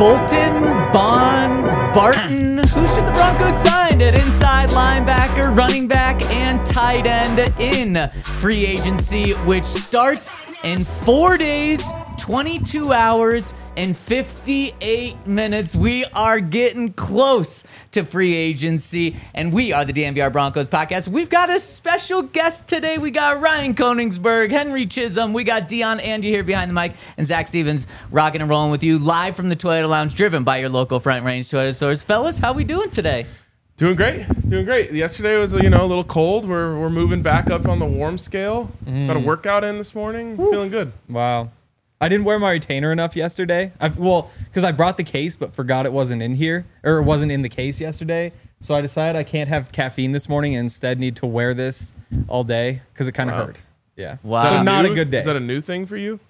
Bolton, Bond, Barton. Who should the Broncos sign at inside linebacker, running back, and tight end in free agency, which starts in 4 days, 22 hours, and 58 minutes. We are getting close to free agency, and we are the DNVR Broncos podcast. We've got a special guest today. We got Ryan Koenigsberg, Henry Chisholm. We got Dion Angie here behind the mic, and Zach Stevens rocking and rolling with you live from the Toyota Lounge, driven by your local Front Range Toyota stores. Fellas, how we doing today? Doing great. Yesterday was, a little cold. We're moving back up on the warm scale. Got a workout in this morning. Feeling good. Wow. I didn't wear my retainer enough yesterday. Because I brought the case but forgot it wasn't in here, or it wasn't in the case yesterday. So I decided I can't have caffeine this morning and instead need to wear this all day because it kind of hurt. Yeah. Wow. So not a good day. Is that a new thing for you?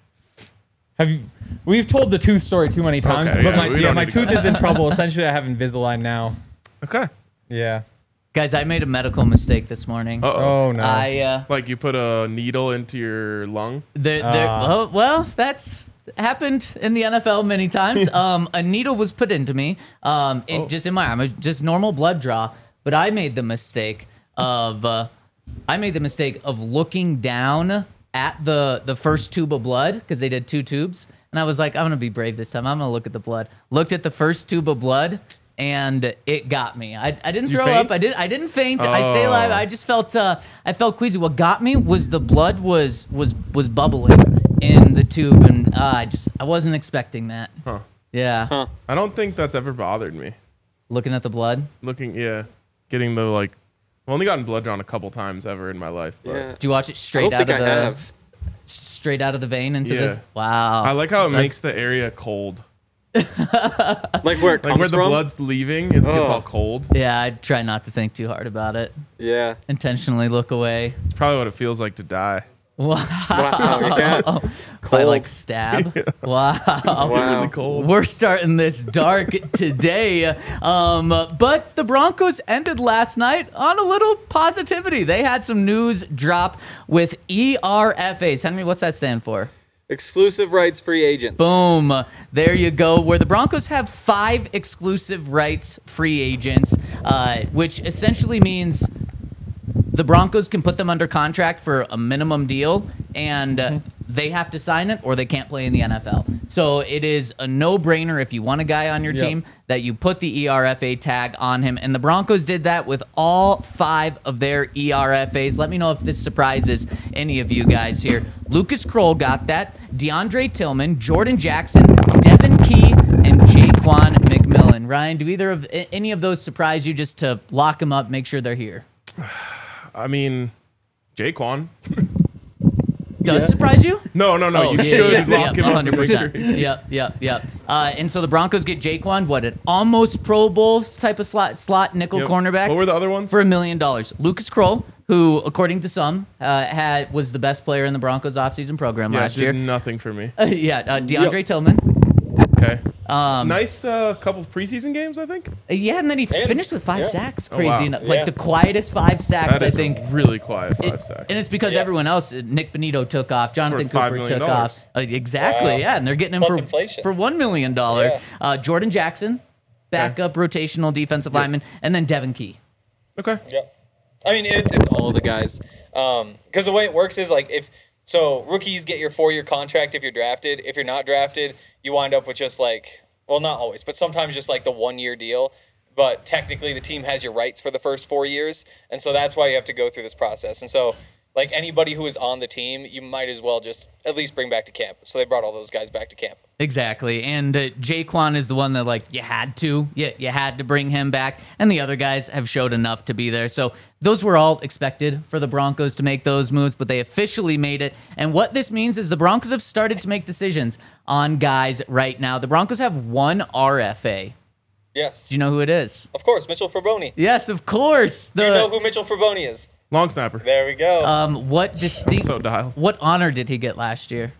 We've told the tooth story too many times, Okay, but my tooth is in trouble. Essentially, I have Invisalign now. Okay. Yeah. Guys, I made a medical mistake this morning. Oh no. Like you put a needle into your lung? That's happened in the NFL many times. A needle was put into me, just in my arm. It was just normal blood draw. But I made the mistake of looking down at the first tube of blood, because they did 2 tubes, and I was like, I'm gonna be brave this time. I'm gonna look at the blood. Looked at the first tube of blood, and it got me. I didn't throw up. I didn't faint. I stayed alive. I just felt I felt queasy. What got me was the blood was bubbling in the tube, and I wasn't expecting that. Huh. Yeah. Huh. I don't think that's ever bothered me. Looking at the blood. Getting the I've only gotten blood drawn a couple times ever in my life. But. Yeah. Do you watch it straight out of the vein into the? Wow. I like how it makes the area cold. Like where it comes where the from? blood's leaving, it gets all cold. Yeah, I try not to think too hard about it. Yeah. Intentionally look away. It's probably what it feels like to die. Wow. Yeah. By stab. Yeah. Wow. Really cold. We're starting this dark today. But the Broncos ended last night on a little positivity. They had some news drop with ERFAs. Henry, what's that stand for? Exclusive rights free agents. Boom. There you go. Where the Broncos have 5 exclusive rights free agents, which essentially means the Broncos can put them under contract for a minimum deal, and they have to sign it or they can't play in the NFL. So it is a no-brainer if you want a guy on your team that you put the ERFA tag on him. And the Broncos did that with all 5 of their ERFAs. Let me know if this surprises any of you guys here. Lucas Kroll got that. DeAndre Tillman, Jordan Jackson, Devin Key, and Jaquan McMillan. Ryan, do either of any of those surprise you, just to lock them up, make sure they're here? I mean, Jaquan. Does surprise you? No. You should lock him up. 100%. Yep. And so the Broncos get Jaquan, an almost Pro Bowl type of slot nickel cornerback. What were the other ones? For $1 million. Lucas Kroll, who, according to some, was the best player in the Broncos offseason program last year. Nothing for me. DeAndre Tillman. Okay. Nice couple preseason games, I think. And then he finished with 5 sacks. Crazy wow. enough. Like the quietest 5 sacks, That is I think. really quiet 5 sacks. And it's because everyone else, Nick Benito took off, Jonathan $5 Cooper million. took off. Exactly, yeah. And they're getting him Plus for inflation. $1 million. Jordan Jackson, backup rotational defensive lineman, and then Devin Key. Okay. Yeah. I mean, it's all of the guys. Because the way it works is rookies get your 4-year contract if you're drafted. If you're not drafted, you wind up with just not always, but sometimes just the 1-year deal. But technically the team has your rights for the first 4 years. And so that's why you have to go through this process. And so anybody who is on the team, you might as well just at least bring back to camp. So they brought all those guys back to camp. Exactly. And Jaquan is the one that you had to bring him back. And the other guys have showed enough to be there. So those were all expected for the Broncos to make those moves, but they officially made it. And what this means is the Broncos have started to make decisions on guys right now. The Broncos have 1 RFA. Yes. Do you know who it is? Of course, Mitchell Fraboni. Yes, of course. Do you know who Mitchell Fraboni is? Long snapper. There we go. So dialed. What honor did he get last year?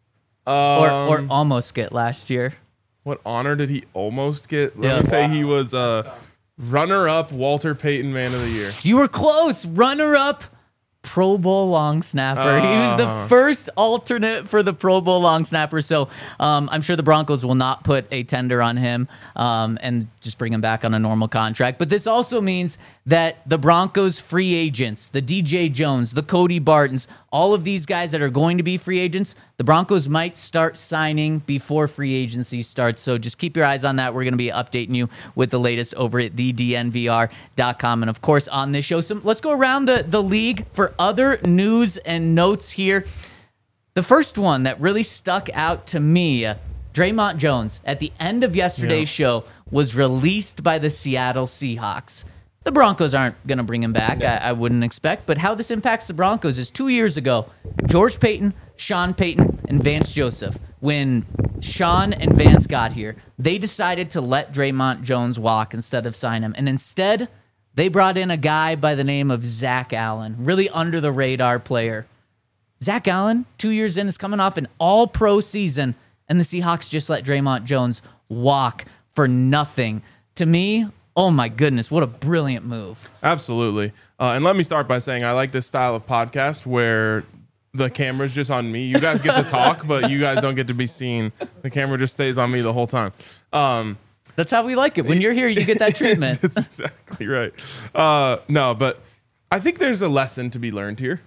Or almost get last year? What honor did he almost get? Let me say he was runner-up Walter Payton Man of the Year. You were close. Runner-up Pro Bowl long snapper. He was the first alternate for the Pro Bowl long snapper. So I'm sure the Broncos will not put a tender on him and just bring him back on a normal contract. But this also means that the Broncos free agents, the DJ Jones, the Cody Bartons, all of these guys that are going to be free agents, the Broncos might start signing before free agency starts. So just keep your eyes on that. We're going to be updating you with the latest over at thednvr.com. And of course, on this show, let's go around the league for other news and notes here. The first one that really stuck out to me, Draymond Jones, at the end of yesterday's show, was released by the Seattle Seahawks. The Broncos aren't going to bring him back, I wouldn't expect. But how this impacts the Broncos is 2 years ago, George Payton, Sean Payton, and Vance Joseph, when Sean and Vance got here, they decided to let Draymond Jones walk instead of sign him. And instead, they brought in a guy by the name of Zach Allen, really under-the-radar player. Zach Allen, 2 years in, is coming off an all-pro season, and the Seahawks just let Draymond Jones walk for nothing. To me, oh my goodness, what a brilliant move. Absolutely. And let me start by saying I like this style of podcast where the camera's just on me. You guys get to talk, but you guys don't get to be seen. The camera just stays on me the whole time. That's how we like it. When you're here, you get that treatment. That's exactly right. No, but I think there's a lesson to be learned here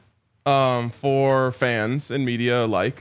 for fans and media alike.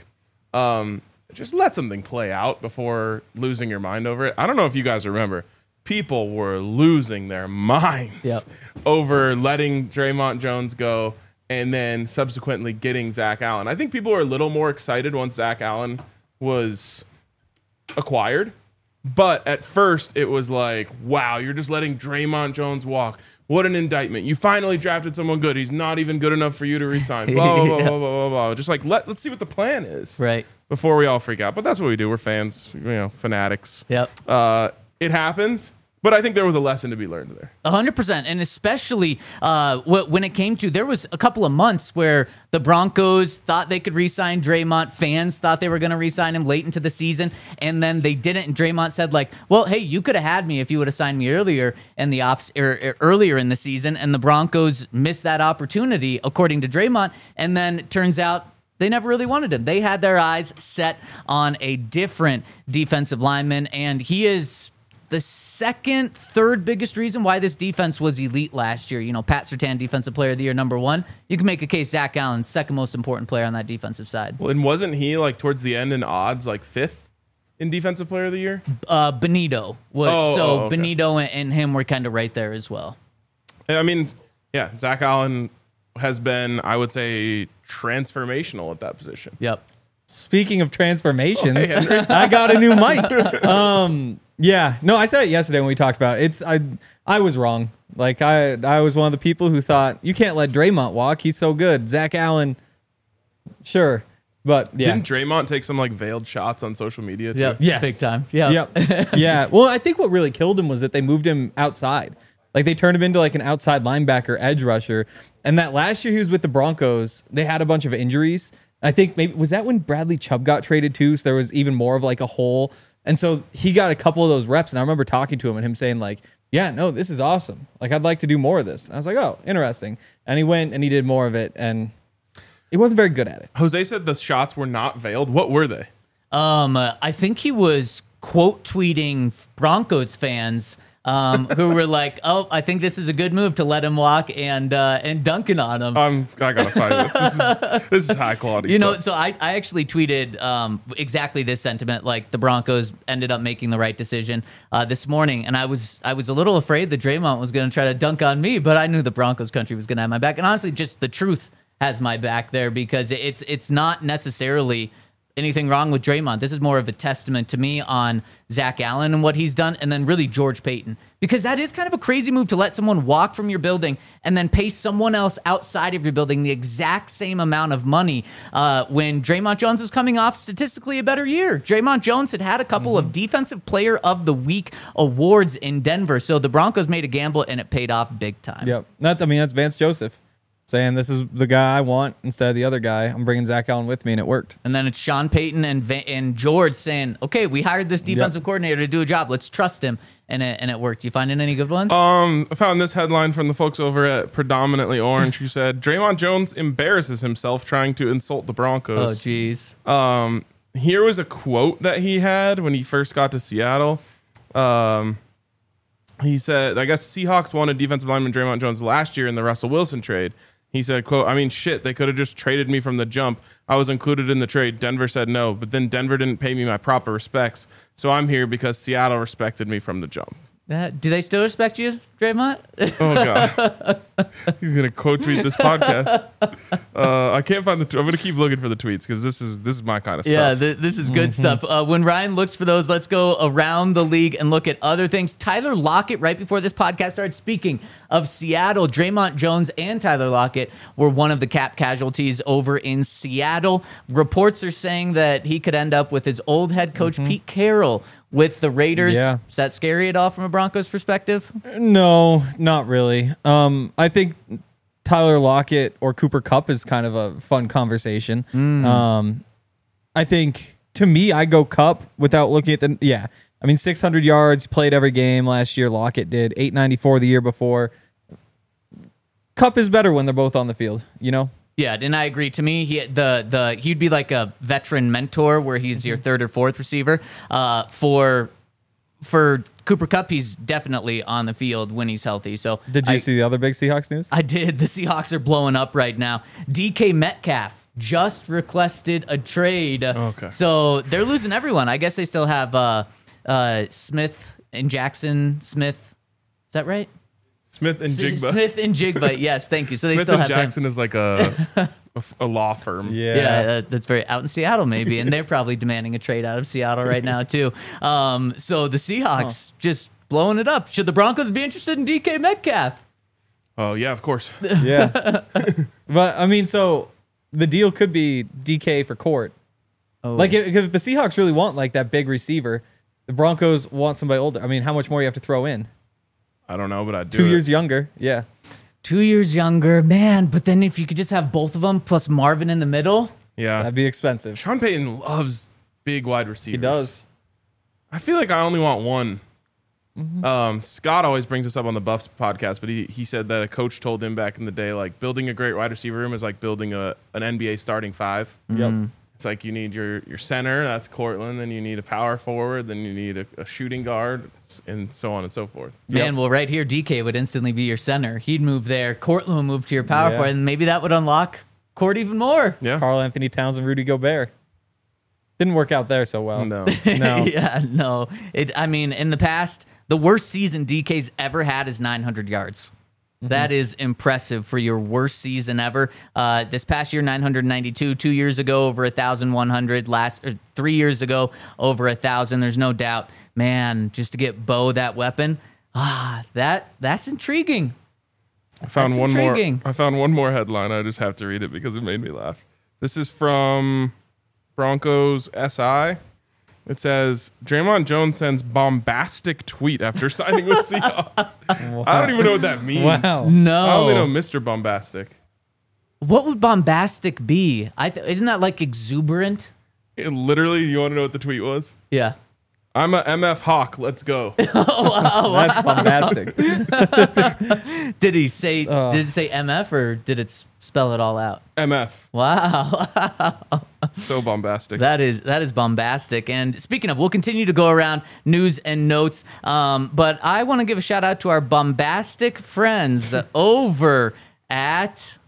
Just let something play out before losing your mind over it. I don't know if you guys remember. People were losing their minds over letting Draymond Jones go and then subsequently getting Zach Allen. I think people were a little more excited once Zach Allen was acquired. But at first, it was like, wow, you're just letting Draymond Jones walk. What an indictment. You finally drafted someone good. He's not even good enough for you to resign. Blah, blah, blah, blah, blah, blah. Just like, let's see what the plan is. Right. Before we all freak out. But that's what we do. We're fans, fanatics. Yep. It happens. But I think there was a lesson to be learned there. 100%. And especially when it came to, there was a couple of months where the Broncos thought they could re-sign Draymond. Fans thought they were going to re-sign him late into the season. And then they didn't. And Draymond said, like, well, hey, you could have had me if you would have signed me earlier in the earlier in the season. And the Broncos missed that opportunity, according to Draymond. And then it turns out they never really wanted him. They had their eyes set on a different defensive lineman. And he is the third biggest reason why this defense was elite last year. Pat Surtain, Defensive Player of the Year, number 1. You can make a case Zach Allen, second most important player on that defensive side. Well, and wasn't he like towards the end in odds, like 5th in Defensive Player of the Year? Benito was. Okay. Benito and him were kind of right there as well. I mean, yeah, Zach Allen has been, I would say, transformational at that position. Yep. Speaking of transformations, I got a new mic. Yeah, no, I said it yesterday when we talked about it. I was wrong. Like I was one of the people who thought you can't let Draymond walk. He's so good. Zach Allen, sure, but yeah. Didn't Draymond take some like veiled shots on social media too? Yep. Yes. Big time. Yep. Yeah. Well, I think what really killed him was that they moved him outside. Like they turned him into like an outside linebacker, edge rusher. And that last year he was with the Broncos, they had a bunch of injuries. I think maybe was that when Bradley Chubb got traded too. So there was even more of like a hole. And so he got a couple of those reps, and I remember talking to him and him saying like, yeah, no, this is awesome. Like, I'd like to do more of this. And I was like, oh, interesting. And he went and he did more of it, and he wasn't very good at it. Jose said the shots were not veiled. What were they? I think he was quote tweeting Broncos fans who were like, oh, I think this is a good move to let him walk and dunking on him. I gotta find this. This is high quality stuff. So I actually tweeted exactly this sentiment, like the Broncos ended up making the right decision this morning, and I was a little afraid that Draymond was going to try to dunk on me, but I knew the Broncos country was going to have my back, and honestly, just the truth has my back there because it's not necessarily anything wrong with Draymond. This is more of a testament to me on Zach Allen and what he's done, and then really George Payton. Because that is kind of a crazy move to let someone walk from your building and then pay someone else outside of your building the exact same amount of money when Draymond Jones was coming off statistically a better year. Draymond Jones had a couple of Defensive Player of the Week awards in Denver. So the Broncos made a gamble, and it paid off big time. Yep. That's Vance Joseph. saying this is the guy I want instead of the other guy. I'm bringing Zach Allen with me, and it worked. And then it's Sean Payton and George saying, okay, we hired this defensive coordinator to do a job. Let's trust him. And it worked. You finding any good ones? I found this headline from the folks over at Predominantly Orange who said, Draymond Jones embarrasses himself trying to insult the Oh, Broncos. geez. Here was a quote that he had when he first got to Seattle. He said, I guess Seahawks wanted defensive lineman Draymond Jones last year in the Russell Wilson trade. He said, quote, I mean, shit, they could have just traded me from the jump. I was included in the trade. Denver said no, but then Denver didn't pay me my proper respects. So I'm here because Seattle respected me from the jump. Do they still respect you, Draymond? Oh, God. He's going to quote tweet this podcast. I can't find I'm going to keep looking for the tweets because this is my kind of stuff. Yeah, this is good stuff. When Ryan looks for those, let's go around the league and look at other things. Tyler Lockett, right before this podcast started, speaking of Seattle, Draymond Jones and Tyler Lockett were one of the cap casualties over in Seattle. Reports are saying that he could end up with his old head coach, Pete Carroll, with the Raiders. Yeah. Is that scary at all from a Broncos perspective? No, not really. I think Tyler Lockett or Cooper Kupp is kind of a fun conversation. I think, to me, I go Kupp without looking at the... Yeah. I mean, 600 yards, played every game last year. Lockett did 894 the year before. Kupp is better when they're both on the field, you know? Yeah, and I agree. To me, he'd be like a veteran mentor where he's your third or fourth receiver. For Cooper Kupp, he's definitely on the field when he's healthy. So Did you see the other big Seahawks news? I did. The Seahawks are blowing up right now. DK Metcalf just requested a trade. Okay. So they're losing everyone. I guess they still have Smith and Jackson Smith. Is that right? Smith and Jigba. Smith and Jigba. Yes, thank you. So they Smith still and have Jackson him. is like a law firm. Yeah, that's very out in Seattle, maybe, and they're probably demanding a trade out of Seattle right now too. So the Seahawks just blowing it up. Should the Broncos be interested in DK Metcalf? Oh, yeah, of course. Yeah. But, I mean, so the deal could be DK for Court. Oh. Like, if the Seahawks really want, like, that big receiver, the Broncos want somebody older. I mean, how much more you have to throw in? I don't know, but I'd do 2 it. years younger. Yeah. 2 years younger, man. But then if you could just have both of them plus Marvin in the middle. Yeah. That'd be expensive. Sean Payton loves big wide receivers. He does. I feel like I only want one. Scott always brings this up on the Buffs podcast, but he said that a coach told him back in the day, like, building a great wide receiver room is like building an NBA starting five. Yep. It's like you need your center, that's Cortland, then you need a power forward, then you need a shooting guard, and so on and so forth. Man, well, right here, DK would instantly be your center. He'd move there. Cortland would move to your power Yeah. forward, and maybe that would unlock Court even more. Yeah. Karl Anthony Towns and Rudy Gobert. Didn't work out there so well. No. No. Yeah, no. I mean, in the past, the worst season DK's ever had is 900 yards. That is impressive for your worst season ever. This past year, 992. 2 years ago, over 1,100. 3 years ago, over 1,000. There's no doubt, man. Just to get Bo that weapon, that's intriguing. I found That's one more. intriguing. I found one more headline. I just have to read it because it made me laugh. This is from Broncos SI. It says Draymond Jones sends bombastic tweet after signing with Seahawks. I don't even know what that means. Wow. No. I only know Mr. Bombastic. What would bombastic be? Isn't that like exuberant? It literally, you want to know what the tweet was? Yeah. I'm a MF Hawk. Let's go. That's bombastic. Did he say MF or did it spell it all out? MF. Wow. So bombastic. That is bombastic. And speaking of, we'll continue to go around news and notes. But I want to give a shout out to our bombastic friends over at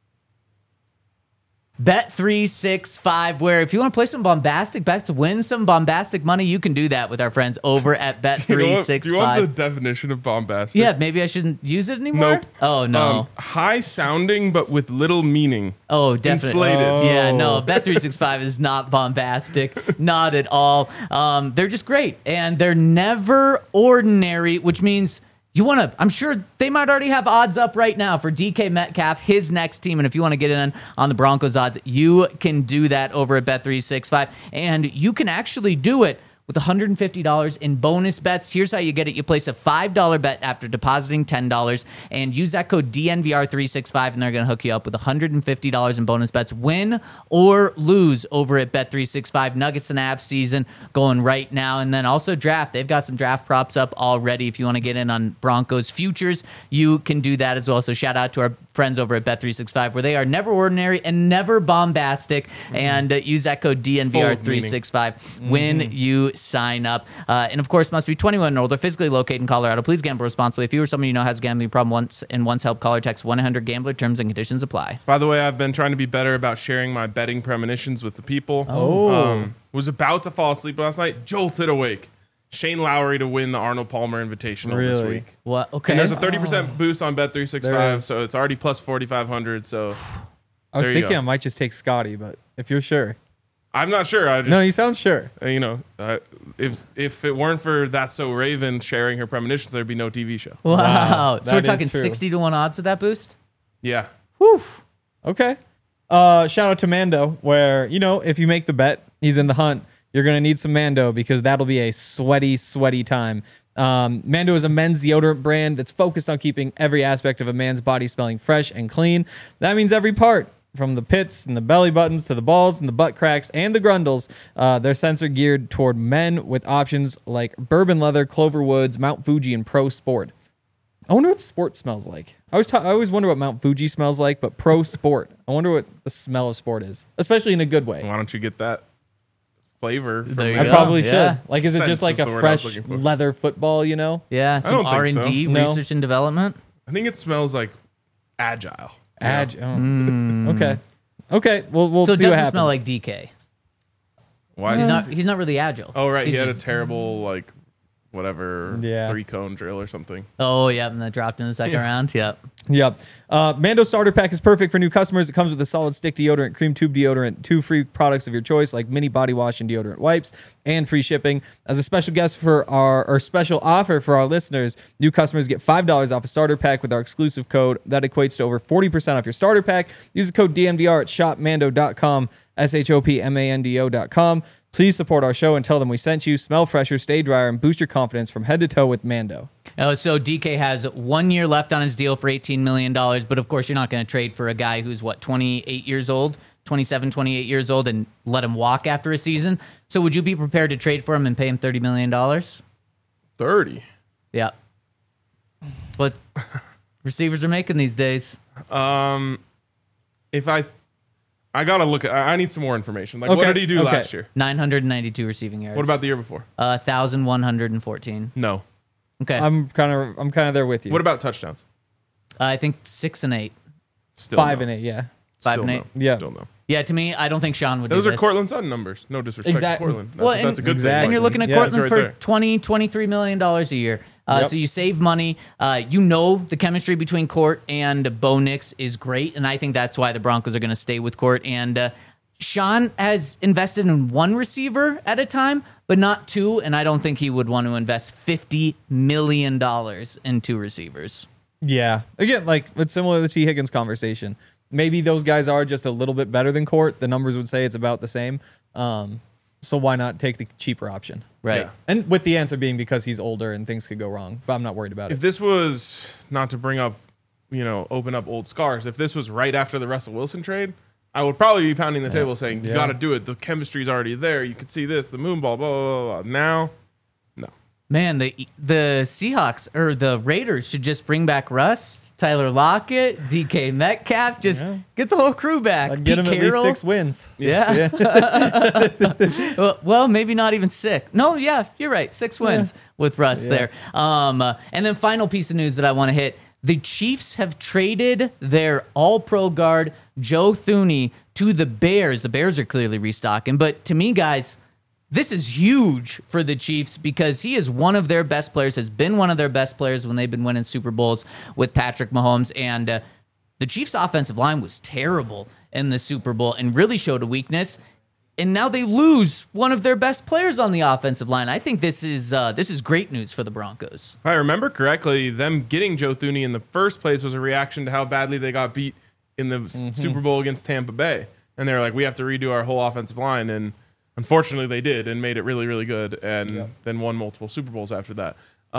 Bet365, where if you want to play some bombastic bets to win some bombastic money, you can do that with our friends over at Bet365. Do you want the definition of bombastic? Yeah, maybe I shouldn't use it anymore. Nope. Oh no. High sounding, but with little meaning. Oh, definitely. Inflated. Yeah, no, Bet365 is not bombastic, not at all. They're just great, and they're never ordinary, which means you want to, I'm sure they might already have odds up right now for DK Metcalf, his next team, and if you want to get in on the Broncos odds, you can do that over at Bet365, and you can actually do it with $150 in bonus bets. Here's how you get it. You place a $5 bet after depositing $10 and use that code DNVR365, and they're going to hook you up with $150 in bonus bets. Win or lose over at Bet365. Nuggets and Avs season going right now. And then also draft. They've got some draft props up already. If you want to get in on Broncos futures, you can do that as well. So shout out to our friends over at Bet365, where they are never ordinary and never bombastic. And use that code DNVR365 when you sign up. And of course, must be 21 and older, physically located in Colorado. Please gamble responsibly. If you or someone you know has a gambling problem, once help, call or text 1-800-GAMBLER. Terms and conditions apply. By the way, I've been trying to be better about sharing my betting premonitions with the people. Was about to fall asleep last night, jolted awake. Shane Lowry to win the Arnold Palmer Invitational this Really? week. What? Okay. And there's a 30% boost on There Bet365, is. so it's already plus 4,500. So I was There you thinking go. I might just take Scotty, but if you're sure. I'm not sure. I just, No, you sound sure. if it weren't for That's So Raven sharing her premonitions, there'd be no TV show. Wow. Wow, So we're that talking is true. 60 to 1 odds with that boost? Yeah. Okay. Shout out to Mando, where, if you make the bet, he's in the hunt, you're going to need some Mando because that'll be a sweaty, sweaty time. Mando is a men's deodorant brand that's focused on keeping every aspect of a man's body smelling fresh and clean. That means every part, from the pits and the belly buttons to the balls and the butt cracks and the grundles. Their scents are geared toward men with options like Bourbon Leather, Clover Woods, Mount Fuji, and Pro Sport. I wonder what Sport smells like. I always wonder what Mount Fuji smells like, but Pro Sport. I wonder what the smell of Sport is, especially in a good way. Why don't you get that flavor from There you I go. probably Yeah. should. Like, is it Sense just like was a the word I was fresh looking for. leather football, Yeah, some don't think so. R&D, No. research and development. I think it smells like agile. Okay. Okay. We'll So it see what doesn't happens. smell like DK. Why is He's not really agile. Oh, right. He's He had a just- terrible, whatever, Yeah. 3-cone drill or something. Oh, yeah, and that dropped in the second round. Yep. Yep. Mando Starter Pack is perfect for new customers. It comes with a solid stick deodorant, cream tube deodorant, 2 free products of your choice like mini body wash and deodorant wipes, and free shipping. As a special guest for our special offer for our listeners, new customers get $5 off a starter pack with our exclusive code. That equates to over 40% off your starter pack. Use the code DNVR at shopmando.com, shopmando.com. Please support our show and tell them we sent you. Smell fresher, stay drier, and boost your confidence from head to toe with Mando. So DK has 1 year left on his deal for $18 million, but of course you're not going to trade for a guy who's, 28 years old, 27, 28 years old, and let him walk after a season. So would you be prepared to trade for him and pay him $30 million? 30. Yeah. What receivers are making these days. If I gotta look at, I need some more information. Like, what Okay, did he do okay. last year? 992 receiving yards. What about the year before? 1,114. No. Okay. I'm kind of there with you. What about touchdowns? I think 6 and 8. Still 5 no. and 8? Yeah. 5 Still and 8. no. Yeah. Still no. Yeah, to me, I don't think Sean would Those do are this. Cortland Sutton numbers. No disrespect Exactly. to Cortland. Well, That's a good exactly. thing. And you're looking at Yeah, Cortland right for there. $23 million a year. Yep. So you save money. The chemistry between Court and Bo Nix is great, and I think that's why the Broncos are going to stay with Court. And Sean has invested in one receiver at a time, but not two, and I don't think he would want to invest $50 million in 2 receivers. Yeah. Again, like, it's similar to the T. Higgins conversation. Maybe those guys are just a little bit better than Court. The numbers would say it's about the same. So why not take the cheaper option? Right. Yeah. And with the answer being because he's older and things could go wrong. But I'm not worried about If it. this was, not to bring up, open up old scars, if this was right after the Russell Wilson trade, I would probably be pounding the table saying, you Yeah. got to do it. The chemistry's already there. You could see this, the moon ball, blah, blah, blah, blah. Now, no. Man, the Seahawks or the Raiders should just bring back Russ, Tyler Lockett, DK Metcalf. Just get the whole crew back. I'd get him Pete at least Carroll. 6 wins. Yeah. well, maybe not even 6. No, yeah, you're right. 6 wins with Russ there. And then final piece of news that I want to hit. The Chiefs have traded their all-pro guard, Joe Thuney, to the Bears. The Bears are clearly restocking. But to me, guys, this is huge for the Chiefs because he is one of their best players, has been one of their best players when they've been winning Super Bowls with Patrick Mahomes. And the Chiefs' offensive line was terrible in the Super Bowl and really showed a weakness. And now they lose one of their best players on the offensive line. I think this is great news for the Broncos. If I remember correctly, them getting Joe Thuney in the first place was a reaction to how badly they got beat in the Super Bowl against Tampa Bay. And they were like, we have to redo our whole offensive line. And Unfortunately, they did and made it really, really good, and then won multiple Super Bowls after that.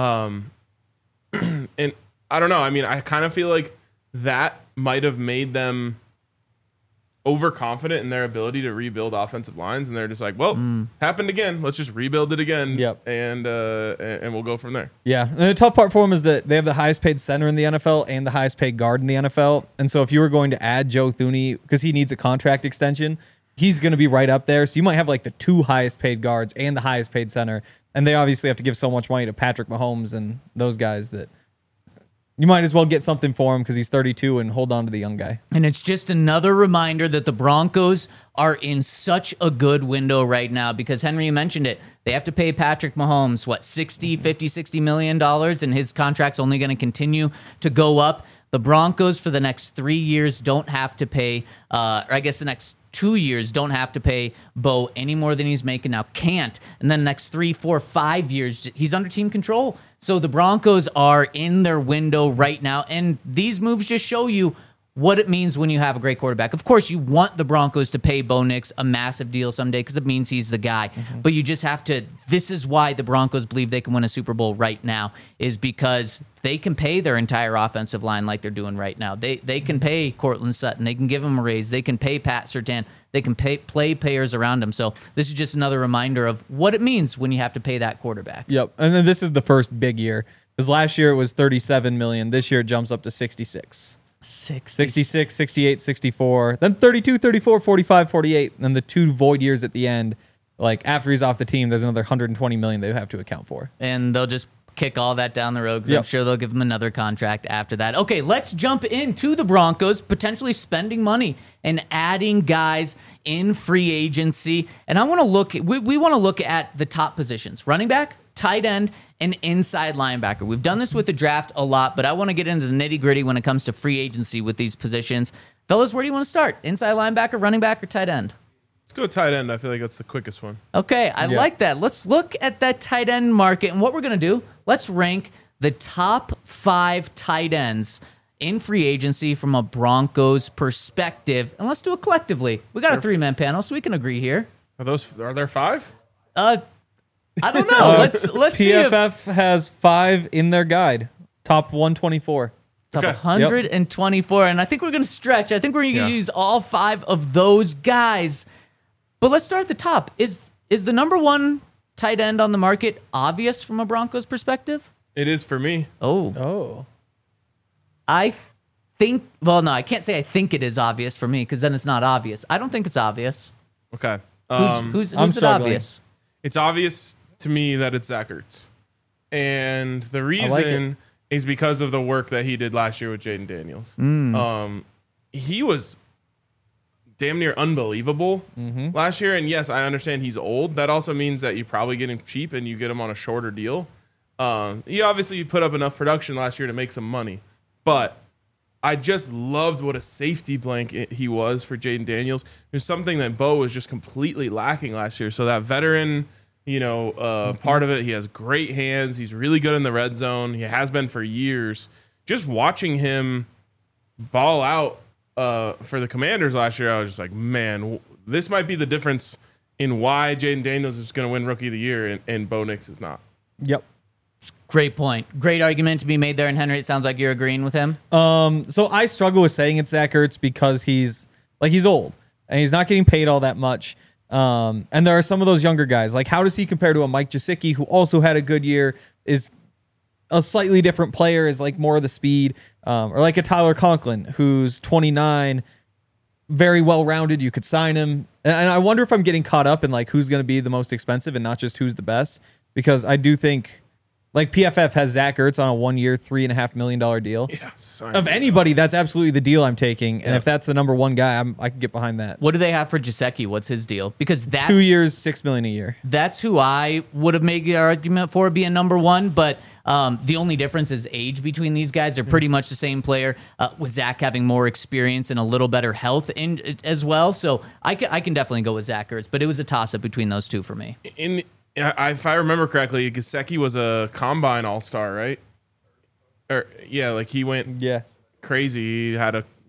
And I don't know. I mean, I kind of feel like that might have made them overconfident in their ability to rebuild offensive lines, and they're just like, well, happened again. Let's just rebuild it again. Yep. And we'll go from there. Yeah, and the tough part for them is that they have the highest paid center in the NFL and the highest paid guard in the NFL. And so if you were going to add Joe Thuney, because he needs a contract extension, he's going to be right up there. So you might have like the 2 highest paid guards and the highest paid center. And they obviously have to give so much money to Patrick Mahomes and those guys that you might as well get something for him because he's 32 and hold on to the young guy. And it's just another reminder that the Broncos are in such a good window right now because, Henry, you mentioned it. They have to pay Patrick Mahomes, what, $60 million, and his contract's only going to continue to go up. The Broncos for the next 3 years don't have to pay, or I guess the next 2 years don't have to pay Bo any more than he's making now. Can't. And then the next 3, 4, 5 years, he's under team control. So the Broncos are in their window right now. And these moves just show you what it means when you have a great quarterback. Of course, you want the Broncos to pay Bo Nix a massive deal someday because it means he's the guy. But you just have to, this is why the Broncos believe they can win a Super Bowl right now, is because they can pay their entire offensive line like they're doing right now. They can pay Cortland Sutton. They can give him a raise. They can pay Pat Surtain. They can play players around him. So this is just another reminder of what it means when you have to pay that quarterback. Yep. And then this is the first big year. Because last year it was $37 million. This year it jumps up to 66. 66, 68, 64, then 32, 34, 45, 48, and then the 2 void years at the end. Like after he's off the team, there's another $120 million they have to account for. And they'll just kick all that down the road because I'm sure they'll give him another contract after that. Okay, let's jump into the Broncos potentially spending money and adding guys in free agency. And I want to look, we want to look at the top positions: running back, tight end, and inside linebacker. We've done this with the draft a lot, but I want to get into the nitty-gritty when it comes to free agency with these positions. Fellas, where do you want to start? Inside linebacker, running back, or tight end? Let's go tight end. I feel like that's the quickest one. Okay, I like that. Let's look at that tight end market. And what we're going to do, let's rank the top 5 tight ends in free agency from a Broncos perspective. And let's do it collectively. We got a 3-man panel, so we can agree here. Are there 5? I don't know. Let's see. PFF has 5 in their guide. Top 124. Top 124. And I think we're going to stretch. I think we're going to use all 5 of those guys. But let's start at the top. Is the number 1 tight end on the market obvious from a Broncos perspective? It is for me. Oh. I think, well, no, I can't say I think it is obvious for me because then it's not obvious. I don't think it's obvious. Okay. Who's I'm it struggling. obvious? It's obvious to me that it's Zach Ertz. And the reason is because of the work that he did last year with Jaden Daniels. He was damn near unbelievable last year. And yes, I understand he's old. That also means that you probably get him cheap and you get him on a shorter deal. He obviously put up enough production last year to make some money. But I just loved what a safety blanket he was for Jaden Daniels. It was something that Bo was just completely lacking last year. So that veteran, part of it, he has great hands. He's really good in the red zone. He has been for years. Just watching him ball out for the Commanders last year, I was just like, man, this might be the difference in why Jaden Daniels is going to win Rookie of the Year and Bo Nix is not. Yep. Great point. Great argument to be made there. And Henry, it sounds like you're agreeing with him. So I struggle with saying it's Zach Ertz because he's old and he's not getting paid all that much. And there are some of those younger guys. Like, how does he compare to a Mike Gesicki, who also had a good year, is a slightly different player, is like more of the speed, or like a Tyler Conklin, who's 29, very well-rounded. You could sign him. And I wonder if I'm getting caught up in like who's going to be the most expensive and not just who's the best, because I do think like PFF has Zach Ertz on a 1-year, $3.5 million deal. Yeah, of anybody, that's absolutely the deal I'm taking. And if that's the number 1 guy, I can get behind that. What do they have for Gesicki? What's his deal? Because that's 2 years, $6 million a year. That's who I would have made the argument for being number 1, but the only difference is age between these guys. They're pretty much the same player, with Zach having more experience and a little better health as well. So I can definitely go with Zach Ertz, but it was a toss-up between those two for me. If I remember correctly, Gesicki was a combine all-star, right? Or like he went crazy. He had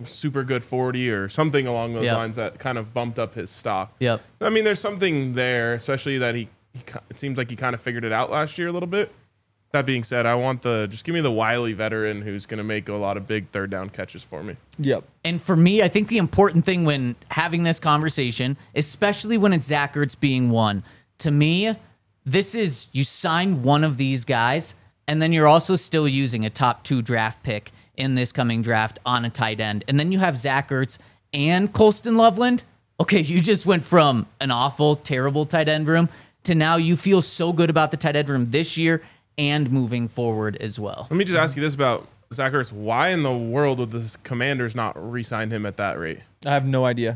super good 40 or something along those Yep. lines that kind of bumped up his stock. Yep. I mean, there's something there, especially that it seems like he kind of figured it out last year a little bit. That being said, I want just give me the wily veteran who's going to make a lot of big third down catches for me. Yep. And for me, I think the important thing when having this conversation, especially when it's Zach Ertz being one, to me, this is you sign one of these guys, and then you're also still using a top 2 draft pick in this coming draft on a tight end. And then you have Zach Ertz and Colston Loveland. Okay, you just went from an awful, terrible tight end room to now you feel so good about the tight end room this year and moving forward as well. Let me just ask you this about Zach Ertz. Why in the world would the Commanders not re-sign him at that rate? I have no idea.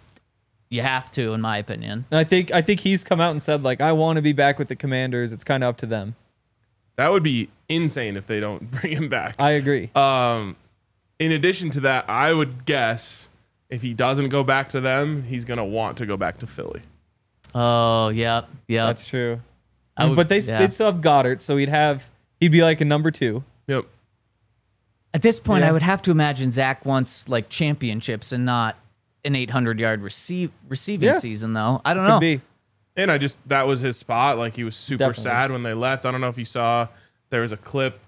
You have to, in my opinion. And I think he's come out and said, like, I want to be back with the Commanders. It's kind of up to them. That would be insane if they don't bring him back. I agree. In addition to that, I would guess if he doesn't go back to them, he's going to want to go back to Philly. Oh, yep. That's true. would- But yeah. they'd still have Goddard, so he'd be like a number 2. Yep. At this point, Yeah. I would have to imagine Zach wants like championships and not an 800-yard receiving Yeah. season, though. I don't Could know. be. And that was his spot. Like, he was super Definitely. sad when they left. I don't know if you saw, there was a clip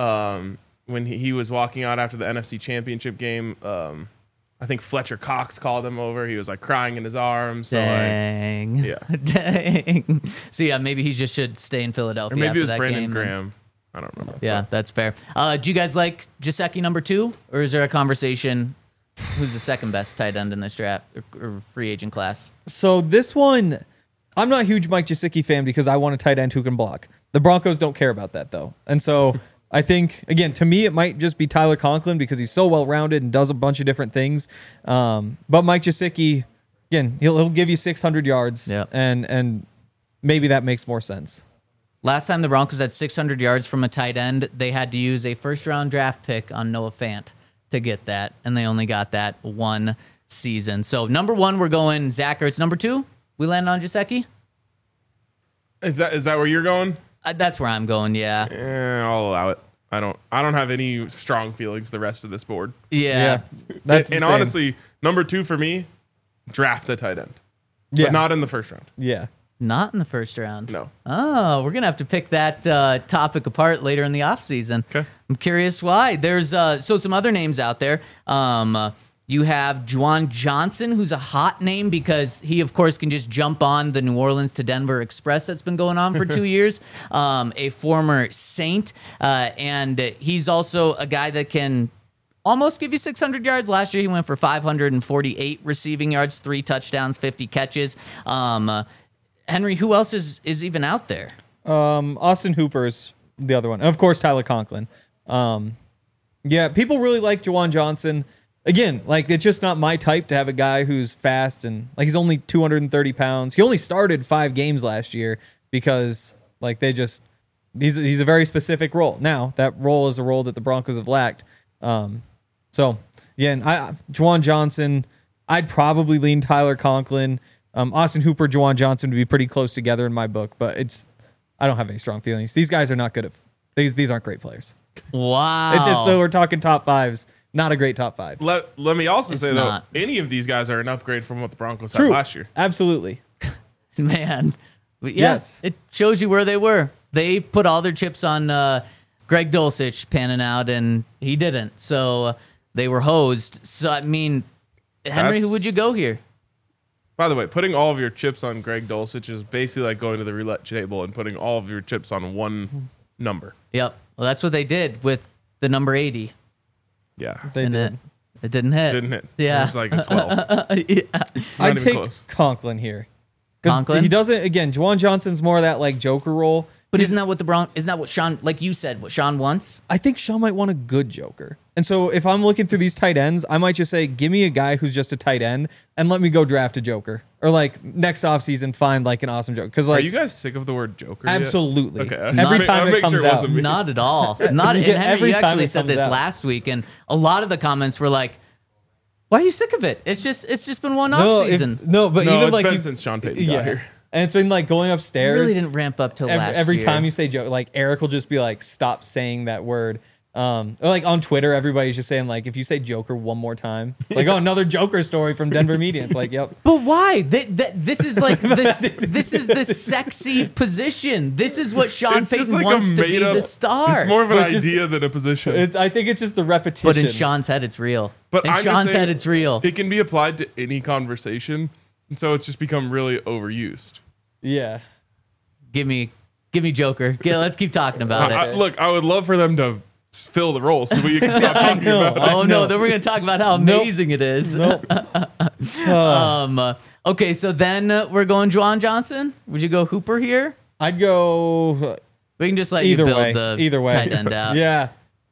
when he was walking out after the NFC Championship game. I think Fletcher Cox called him over. He was like crying in his arms. So like, Dang. yeah. Dang. So yeah, maybe he just should stay in or Philadelphia maybe after it was that Brandon game. Graham. I don't remember. Yeah, that's fair. Do you guys like Gesicki number 2, or is there a conversation? Who's the second best tight end in this draft or free agent class? So this one, I'm not a huge Mike Gesicki fan because I want a tight end who can block. The Broncos don't care about that, though. And so I think, again, to me, it might just be Tyler Conklin because he's so well-rounded and does a bunch of different things. But Mike Gesicki, again, he'll give you 600 yards, Yep. and maybe that makes more sense. Last time the Broncos had 600 yards from a tight end, they had to use a first-round draft pick on Noah Fant to get that, and they only got that one season. So number 1, we're going Zach Ertz. Number 2, we land on Gesicki? Is that where you're going? That's where I'm going, yeah. I'll allow it. I don't have any strong feelings the rest of this board. Yeah. That's And same. honestly, number 2 for me, draft a tight end. yeah, But not in the first round. yeah. Not in the first round. No. Oh, we're going to have to pick that topic apart later in the offseason. Okay. I'm curious why. There's some other names out there. You have Juwan Johnson, who's a hot name because he, of course, can just jump on the New Orleans to Denver Express that's been going on for 2 years. A former Saint. And he's also a guy that can almost give you 600 yards. Last year, he went for 548 receiving yards, 3 touchdowns, 50 catches. Henry, who else is even out there? Austin Hooper's the other one. And of course, Tyler Conklin. Yeah, people really like Juwan Johnson. Again, like, it's just not my type to have a guy who's fast and, like, he's only 230 pounds. He only started 5 games last year because, like, he's a very specific role. Now, that role is a role that the Broncos have lacked. So, again, Juwan Johnson, I'd probably lean Tyler Conklin. Austin Hooper, Juwan Johnson would be pretty close together in my book, but I don't have any strong feelings. These guys are not good at these aren't great players. Wow. It's just so we're talking top 5s, not a great top 5. Let me also It's say, not. though, any of these guys are an upgrade from what the Broncos had True. last year. Absolutely. Man. But yeah, Yes. it shows you where they were. They put all their chips on Greg Dulcich panning out, and he didn't. So they were hosed. So, I mean, Henry, who would you go here? By the way, putting all of your chips on Greg Dulcich is basically like going to the roulette table and putting all of your chips on one number. Yep. Well, that's what they did with the number 80. Yeah. They and did. it didn't hit. Didn't hit. Yeah. It was like a 12. Yeah. I'd even take close. Conklin here. 'Cause Conklin? He doesn't, again, Juwan Johnson's more of that, like, Joker role. But isn't that what Sean, like you said, what Sean wants? I think Sean might want a good Joker. And so if I'm looking through these tight ends, I might just say, give me a guy who's just a tight end and let me go draft a Joker. Or, like, next offseason, find, like, an awesome Joker. Because, Are like, you guys sick of the word Joker? yet? absolutely. Okay. Every time it comes out. wasn't me. Not at all. Not. And Yeah, Henry, every you time actually it said comes this out. last week, and a lot of the comments were like, "Why are you sick of it? It's just been one No, off if- season." no, but No, even it's like been since Sean Payton yeah. got here. And it's been like going It upstairs. really didn't ramp up till last every year. time you say Joe, like Eric will just be like, stop saying that word. Or like on Twitter, everybody's just saying like, if you say Joker one more time, it's like, oh, another Joker story from Denver media. It's like, yep. But why? This is like this. This is the sexy position. This is what Sean It's just Payton like wants a to be made up. the star. It's more of an But just- idea than a position. I think it's just the repetition. but in Sean's head, it's real. But in I'm just Sean's saying, head, it's real. It can be applied to any conversation, and so it's just become really overused. Yeah. Give me Joker. Yeah, let's keep talking about it. Look, I would love for them to fill the role so we can stop talking about it. Oh no, then we're gonna talk about how amazing it is. Nope. Okay, so then we're going Juwan Johnson. Would you go Hooper here? I'd go We can just let either you build way. the Either way. tight end out. Yeah.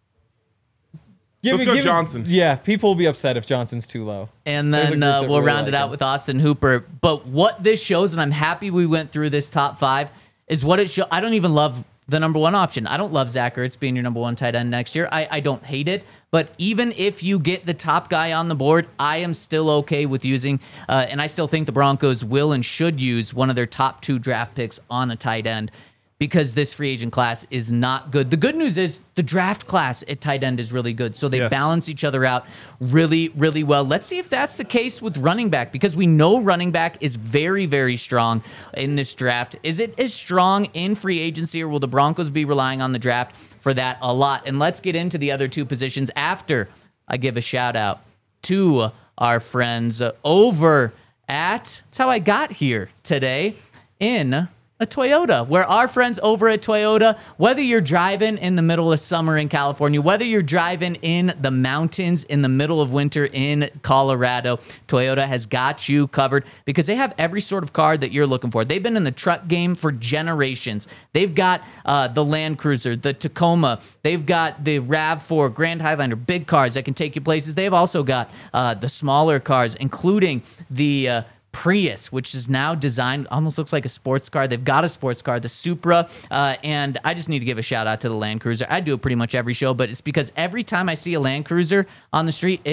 Let's go Johnson. Yeah, people will be upset if Johnson's too low. And There's a then group that we'll really round like it out him. with Austin Hooper. But what this shows, and I'm happy we went through this top 5, is what it shows. I don't even love the number 1 option. I don't love Zach Ertz being your number 1 tight end next year. I don't hate it. But even if you get the top guy on the board, I am still okay with using, and I still think the Broncos will and should use one of their top 2 draft picks on a tight end, because this free agent class is not good. The good news is the draft class at tight end is really good. So they Yes. balance each other out really, really well. Let's see if that's the case with running back, because we know running back is very, very strong in this draft. Is it as strong in free agency, or will the Broncos be relying on the draft for that a lot? And let's get into the other 2 positions after I give a shout out to our friends over at, that's how I got here today, in a Toyota, where our friends over at Toyota, whether you're driving in the middle of summer in California, whether you're driving in the mountains in the middle of winter in Colorado, Toyota has got you covered, because they have every sort of car that you're looking for. They've been in the truck game for generations. They've got the Land Cruiser, the Tacoma. They've got the RAV4, Grand Highlander, big cars that can take you places. They've also got the smaller cars, including the Prius, which is now designed, almost looks like a sports car. They've got a sports car, the Supra, and I just need to give a shout out to the Land Cruiser. I do it pretty much every show, but it's because every time I see a Land Cruiser on the street,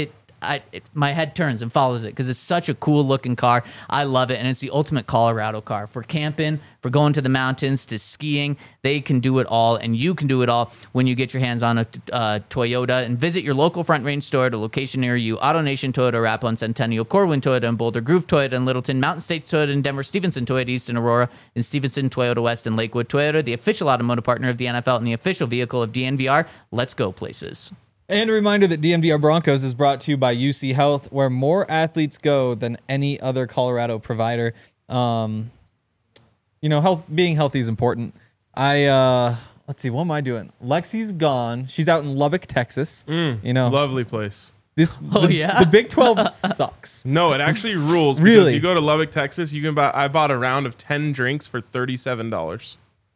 my head turns and follows it, because it's such a cool looking car. I love it, and it's the ultimate Colorado car for camping, for going to the mountains, to skiing. They can do it all, and you can do it all when you get your hands on a Toyota. And visit your local Front Range store at a location near you. AutoNation Toyota, Arapahoe and Centennial, Corwin Toyota in Boulder, Groove Toyota in Littleton, Mountain States Toyota in Denver, Stevenson Toyota East in Aurora, and Stevenson Toyota West in Lakewood. Toyota, the official automotive partner of the NFL and the official vehicle of DNVR. Let's go places. And a reminder that DNVR Broncos is brought to you by UC Health, where more athletes go than any other Colorado provider. Being healthy is important. Let's see, what am I doing? Lexi's gone. She's out in Lubbock, Texas. Lovely place. The Big 12 sucks. No, it actually rules. Because Really? you go to Lubbock, Texas, you can buy. I bought a round of 10 drinks for $37.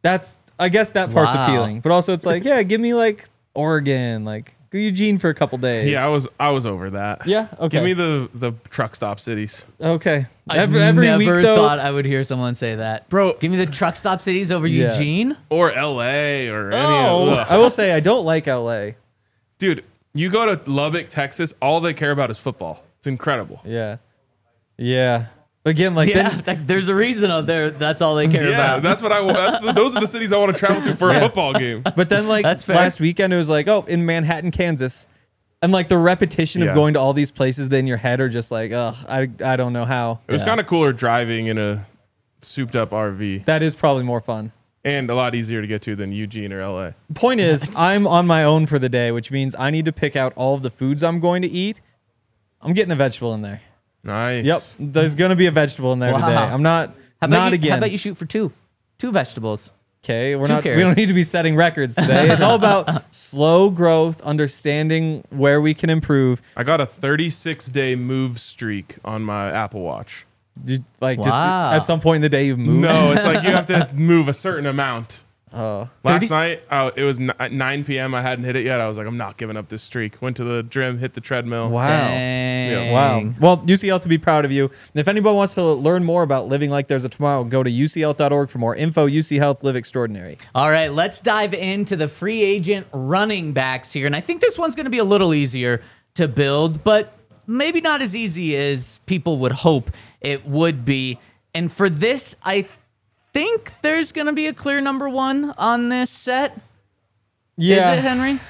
I guess that part's Wow. appealing, but also it's like, yeah, give me like Oregon, like go Eugene for a couple days. Yeah, I was over that. Yeah, okay. Give me the truck stop cities. Okay. I Every never week though. thought I would hear someone say that. Bro. Give me the truck stop cities over Yeah. Eugene. Or LA or any of I will say I don't like LA. Dude, you go to Lubbock, Texas, all they care about is football. It's incredible. Yeah. Yeah. Again, like Yeah, then, there's a reason out there. That's all they care Yeah, about. that's what I want. Those are the cities I want to travel to for a football game. but then like That's fair. last weekend it was like, oh, in Manhattan, Kansas. And like the repetition Yeah. of going to all these places then in your head are just like, oh, I don't know how. It was kind of cooler driving in a souped up RV That is probably more fun. and a lot easier to get to than Eugene or LA. Point is, I'm on my own for the day, which means I need to pick out all of the foods I'm going to eat. I'm getting a vegetable in there. Nice. Yep, there's gonna be a vegetable in there Wow. today. I'm not How about not you, again. How about you shoot for two vegetables? Okay, we Two don't carrots. need to be setting records today. It's all about slow growth, understanding where we can improve. I got a 36-day move streak on my Apple Watch. Just Wow. at some point in the day you've moved. No, it's like you have to move a certain amount. Oh. Last 30 night, it was at 9 p.m. I hadn't hit it yet. I was like, I'm not giving up this streak. Went to the gym, hit the treadmill. Wow. Dang. Wow. Well, UCL to be proud of you. And if anyone wants to learn more about living like there's a tomorrow, go to ucl.org for more info. UC Health, live extraordinary. All right, let's dive into the free agent running backs here. And I think this one's going to be a little easier to build, but maybe not as easy as people would hope it would be. And for this, I think there's going to be a clear number one on this set. Yeah. Is it, Henry?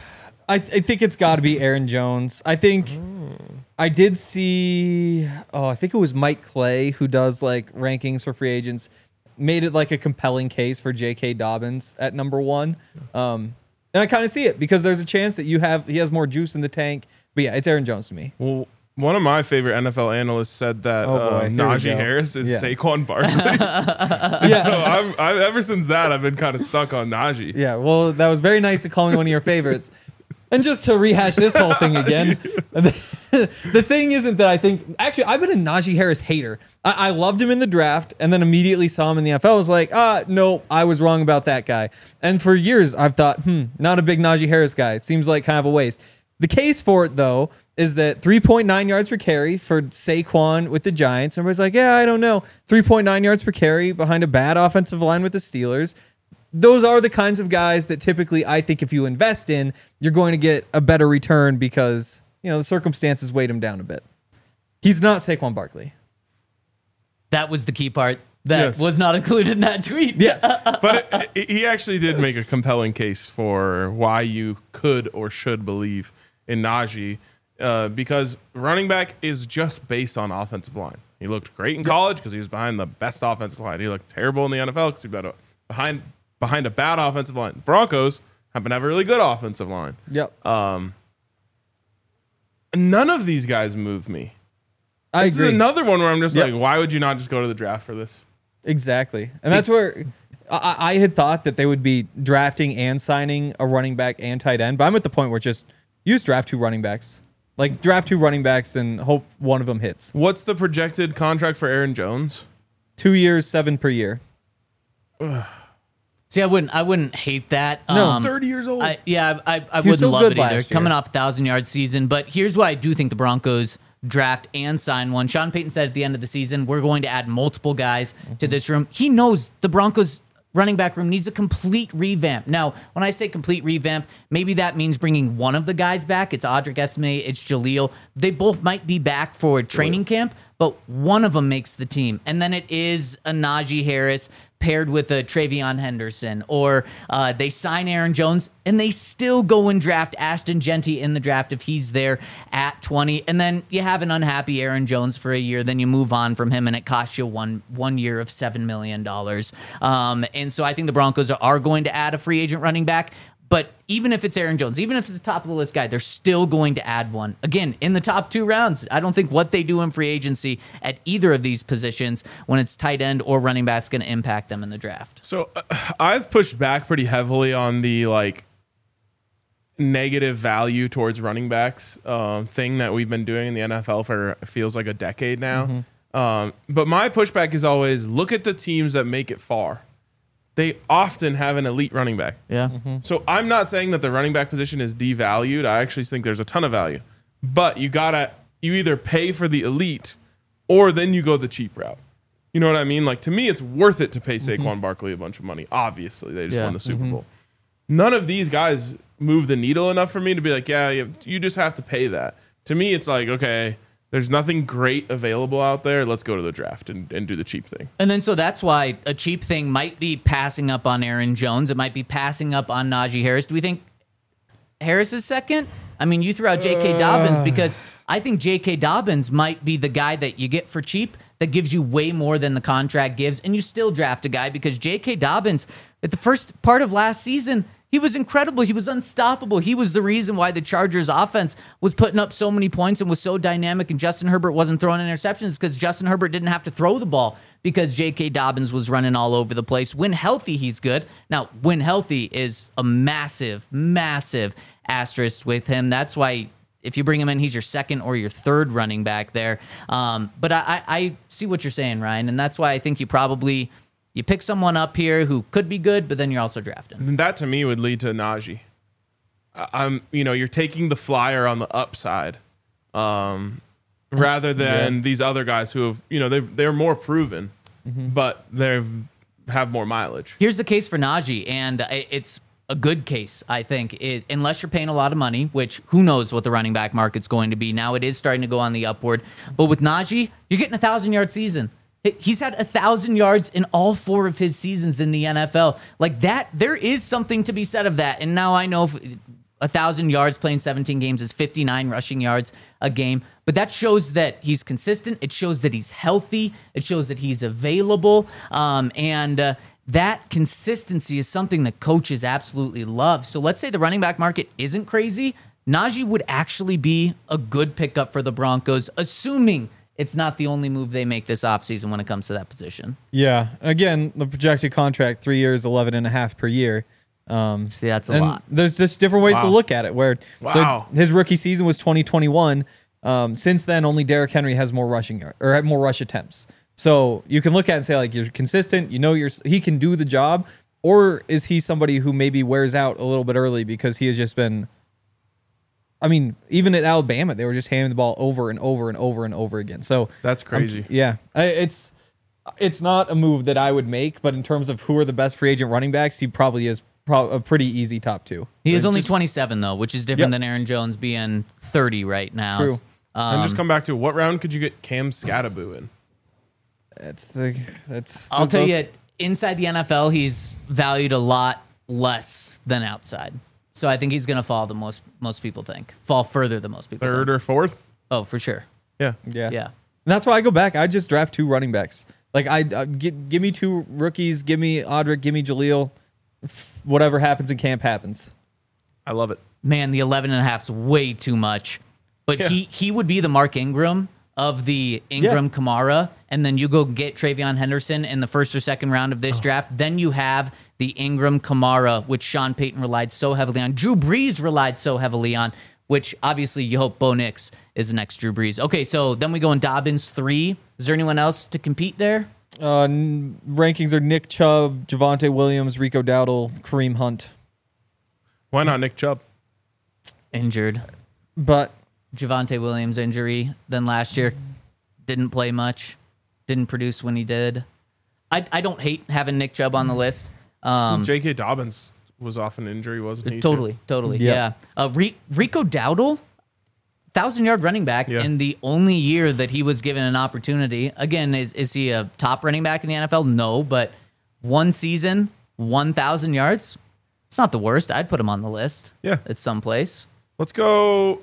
I think it's got to be Aaron Jones. I think I did see. Oh, I think it was Mike Clay who does like rankings for free agents. Made it like a compelling case for J.K. Dobbins at number 1. And I kind of see it because there's a chance that he has more juice in the tank. But yeah, it's Aaron Jones to me. Well, one of my favorite NFL analysts said that Here we Najee go. Harris is Yeah. Saquon Barkley. So I'm ever since that, I've been kind of stuck on Najee. Yeah, well, that was very nice to call me one of your favorites. And just to rehash this whole thing again, the thing isn't that I think... Actually, I've been a Najee Harris hater. I loved him in the draft and then immediately saw him in the NFL. I was like, no, I was wrong about that guy. And for years, I've thought, not a big Najee Harris guy. It seems like kind of a waste. The case for it, though, is that 3.9 yards per carry for Saquon with the Giants. Everybody's like, yeah, I don't know. 3.9 yards per carry behind a bad offensive line with the Steelers. Those are the kinds of guys that typically I think if you invest in, you're going to get a better return because, the circumstances weighed him down a bit. He's not Saquon Barkley. That was the key part that Yes. was not included in that tweet. Yes. But he actually did make a compelling case for why you could or should believe in Najee because running back is just based on offensive line. He looked great in college because he was behind the best offensive line. He looked terrible in the NFL because he was behind a bad offensive line. Broncos happen to have a really good offensive line. Yep. None of these guys move me. I This agree. is another one where I'm just Yep. like, why would you not just go to the draft for this? Exactly. And that's where I had thought that they would be drafting and signing a running back and tight end. But I'm at the point where just use draft 2 running backs. Like draft 2 running backs and hope one of them hits. What's the projected contract for Aaron Jones? 2 years, 7 per year. See, I wouldn't hate that. No. He's 30 years old. I He was wouldn't so love good it either. last year. Coming off a 1,000-yard season, but here's why I do think the Broncos draft and sign one. Sean Payton said at the end of the season, we're going to add multiple guys to this room. He knows the Broncos running back room needs a complete revamp. Now, when I say complete revamp, maybe that means bringing one of the guys back. It's Audric Esme, it's Jaleel. They both might be back for training camp, but one of them makes the team. And then it is a Najee Harris paired with a Travion Henderson, or they sign Aaron Jones and they still go and draft Ashton Genty in the draft if he's there at 20. And then you have an unhappy Aaron Jones for a year, then you move on from him and it costs you one year of $7 million. And so I think the Broncos are going to add a free agent running back. But even if it's Aaron Jones, even if it's a top of the list guy, they're still going to add one. Again, in the top 2 rounds, I don't think what they do in free agency at either of these positions, when it's tight end or running back, is going to impact them in the draft. So I've pushed back pretty heavily on the negative value towards running backs thing that we've been doing in the NFL for it feels like a decade now. But my pushback is always look at the teams that make it far. They often have an elite running back. Yeah. So I'm not saying that the running back position is devalued. I actually think there's a ton of value. But you either pay for the elite or then you go the cheap route. You know what I mean? Like, to me, it's worth it to pay Saquon Barkley a bunch of money. Obviously, they just won the Super Bowl. None of these guys move the needle enough for me to be like, yeah, you just have to pay that. To me, it's like, okay, there's nothing great available out there. Let's go to the draft and do the cheap thing. And then so that's why a cheap thing might be passing up on Aaron Jones. It might be passing up on Najee Harris. Do we think Harris is second? I mean, you threw out J.K. Dobbins because I think J.K. Dobbins might be the guy that you get for cheap that gives you way more than the contract gives, and you still draft a guy because J.K. Dobbins, at the first part of last season, he was incredible. He was unstoppable. He was the reason why the Chargers offense was putting up so many points and was so dynamic, and Justin Herbert wasn't throwing interceptions because Justin Herbert didn't have to throw the ball because J.K. Dobbins was running all over the place. When healthy, he's good. Now, when healthy is a massive, massive asterisk with him. That's why if you bring him in, he's your second or your third running back there. But I see what you're saying, Ryan, and that's why I think you pick someone up here who could be good, but then you're also drafting. And that to me would lead to Najee. You're taking the flyer on the upside, rather than these other guys who have, they're more proven, but they have more mileage. Here's the case for Najee, and it's a good case, I think, unless you're paying a lot of money, which who knows what the running back market's going to be. Now it is starting to go on the upward. But with Najee, you're getting a 1,000-yard season. He's had 1,000 yards in all 4 of his seasons in the NFL. Like that, there is something to be said of that. And now I know 1,000 yards playing 17 games is 59 rushing yards a game. But that shows that he's consistent. It shows that he's healthy. It shows that he's available. And that consistency is something that coaches absolutely love. So let's say the running back market isn't crazy. Najee would actually be a good pickup for the Broncos, assuming it's not the only move they make this offseason when it comes to that position. Yeah. Again, the projected contract, 3 years, 11.5 per year. See, that's a lot. There's just different ways to look at it. So his rookie season was 2021. Since then, only Derrick Henry has more rushing or had more rush attempts. So you can look at it and say, like, you're consistent. He can do the job, or is he somebody who maybe wears out a little bit early because he has just been. I mean, even at Alabama, they were just handing the ball over and over and over and over again. So That's crazy. It's not a move that I would make, but in terms of who are the best free agent running backs, he probably is a pretty easy top 2. He is only 27, though, which is different than Aaron Jones being 30 right now. True. And just come back to what round could you get Cam Scatteraboo in? I'll tell you, inside the NFL, he's valued a lot less than outside. So I think he's going to fall the most people think. Fall further than most people Third think. or fourth? Oh, for sure. Yeah. Yeah. Yeah. And that's why I go back. I just draft 2 running backs. Like, give me 2 rookies. Give me Audric. Give me Jaleel. Whatever happens in camp happens. I love it. Man, the 11.5 is way too much. But he would be the Mark Ingram of the Ingram-Kamara, and then you go get Travion Henderson in the first or second round of this draft. Then you have the Ingram-Kamara, which Sean Payton relied so heavily on. Drew Brees relied so heavily on, which obviously you hope Bo Nix is the next Drew Brees. Okay, so then we go in Dobbins 3. Is there anyone else to compete there? Rankings are Nick Chubb, Javonte Williams, Rico Dowdle, Kareem Hunt. Why not Nick Chubb? Injured. But Javonte Williams injury. Then last year, didn't play much. Didn't produce when he did. I don't hate having Nick Chubb on the list. J.K. Dobbins was off an injury, wasn't he? Totally. Yeah. Yeah. Rico Dowdle, 1,000-yard running back in the only year that he was given an opportunity. Again, is he a top running back in the NFL? No, but one season, 1,000 yards. It's not the worst. I'd put him on the list. Yeah. At some place. Let's go.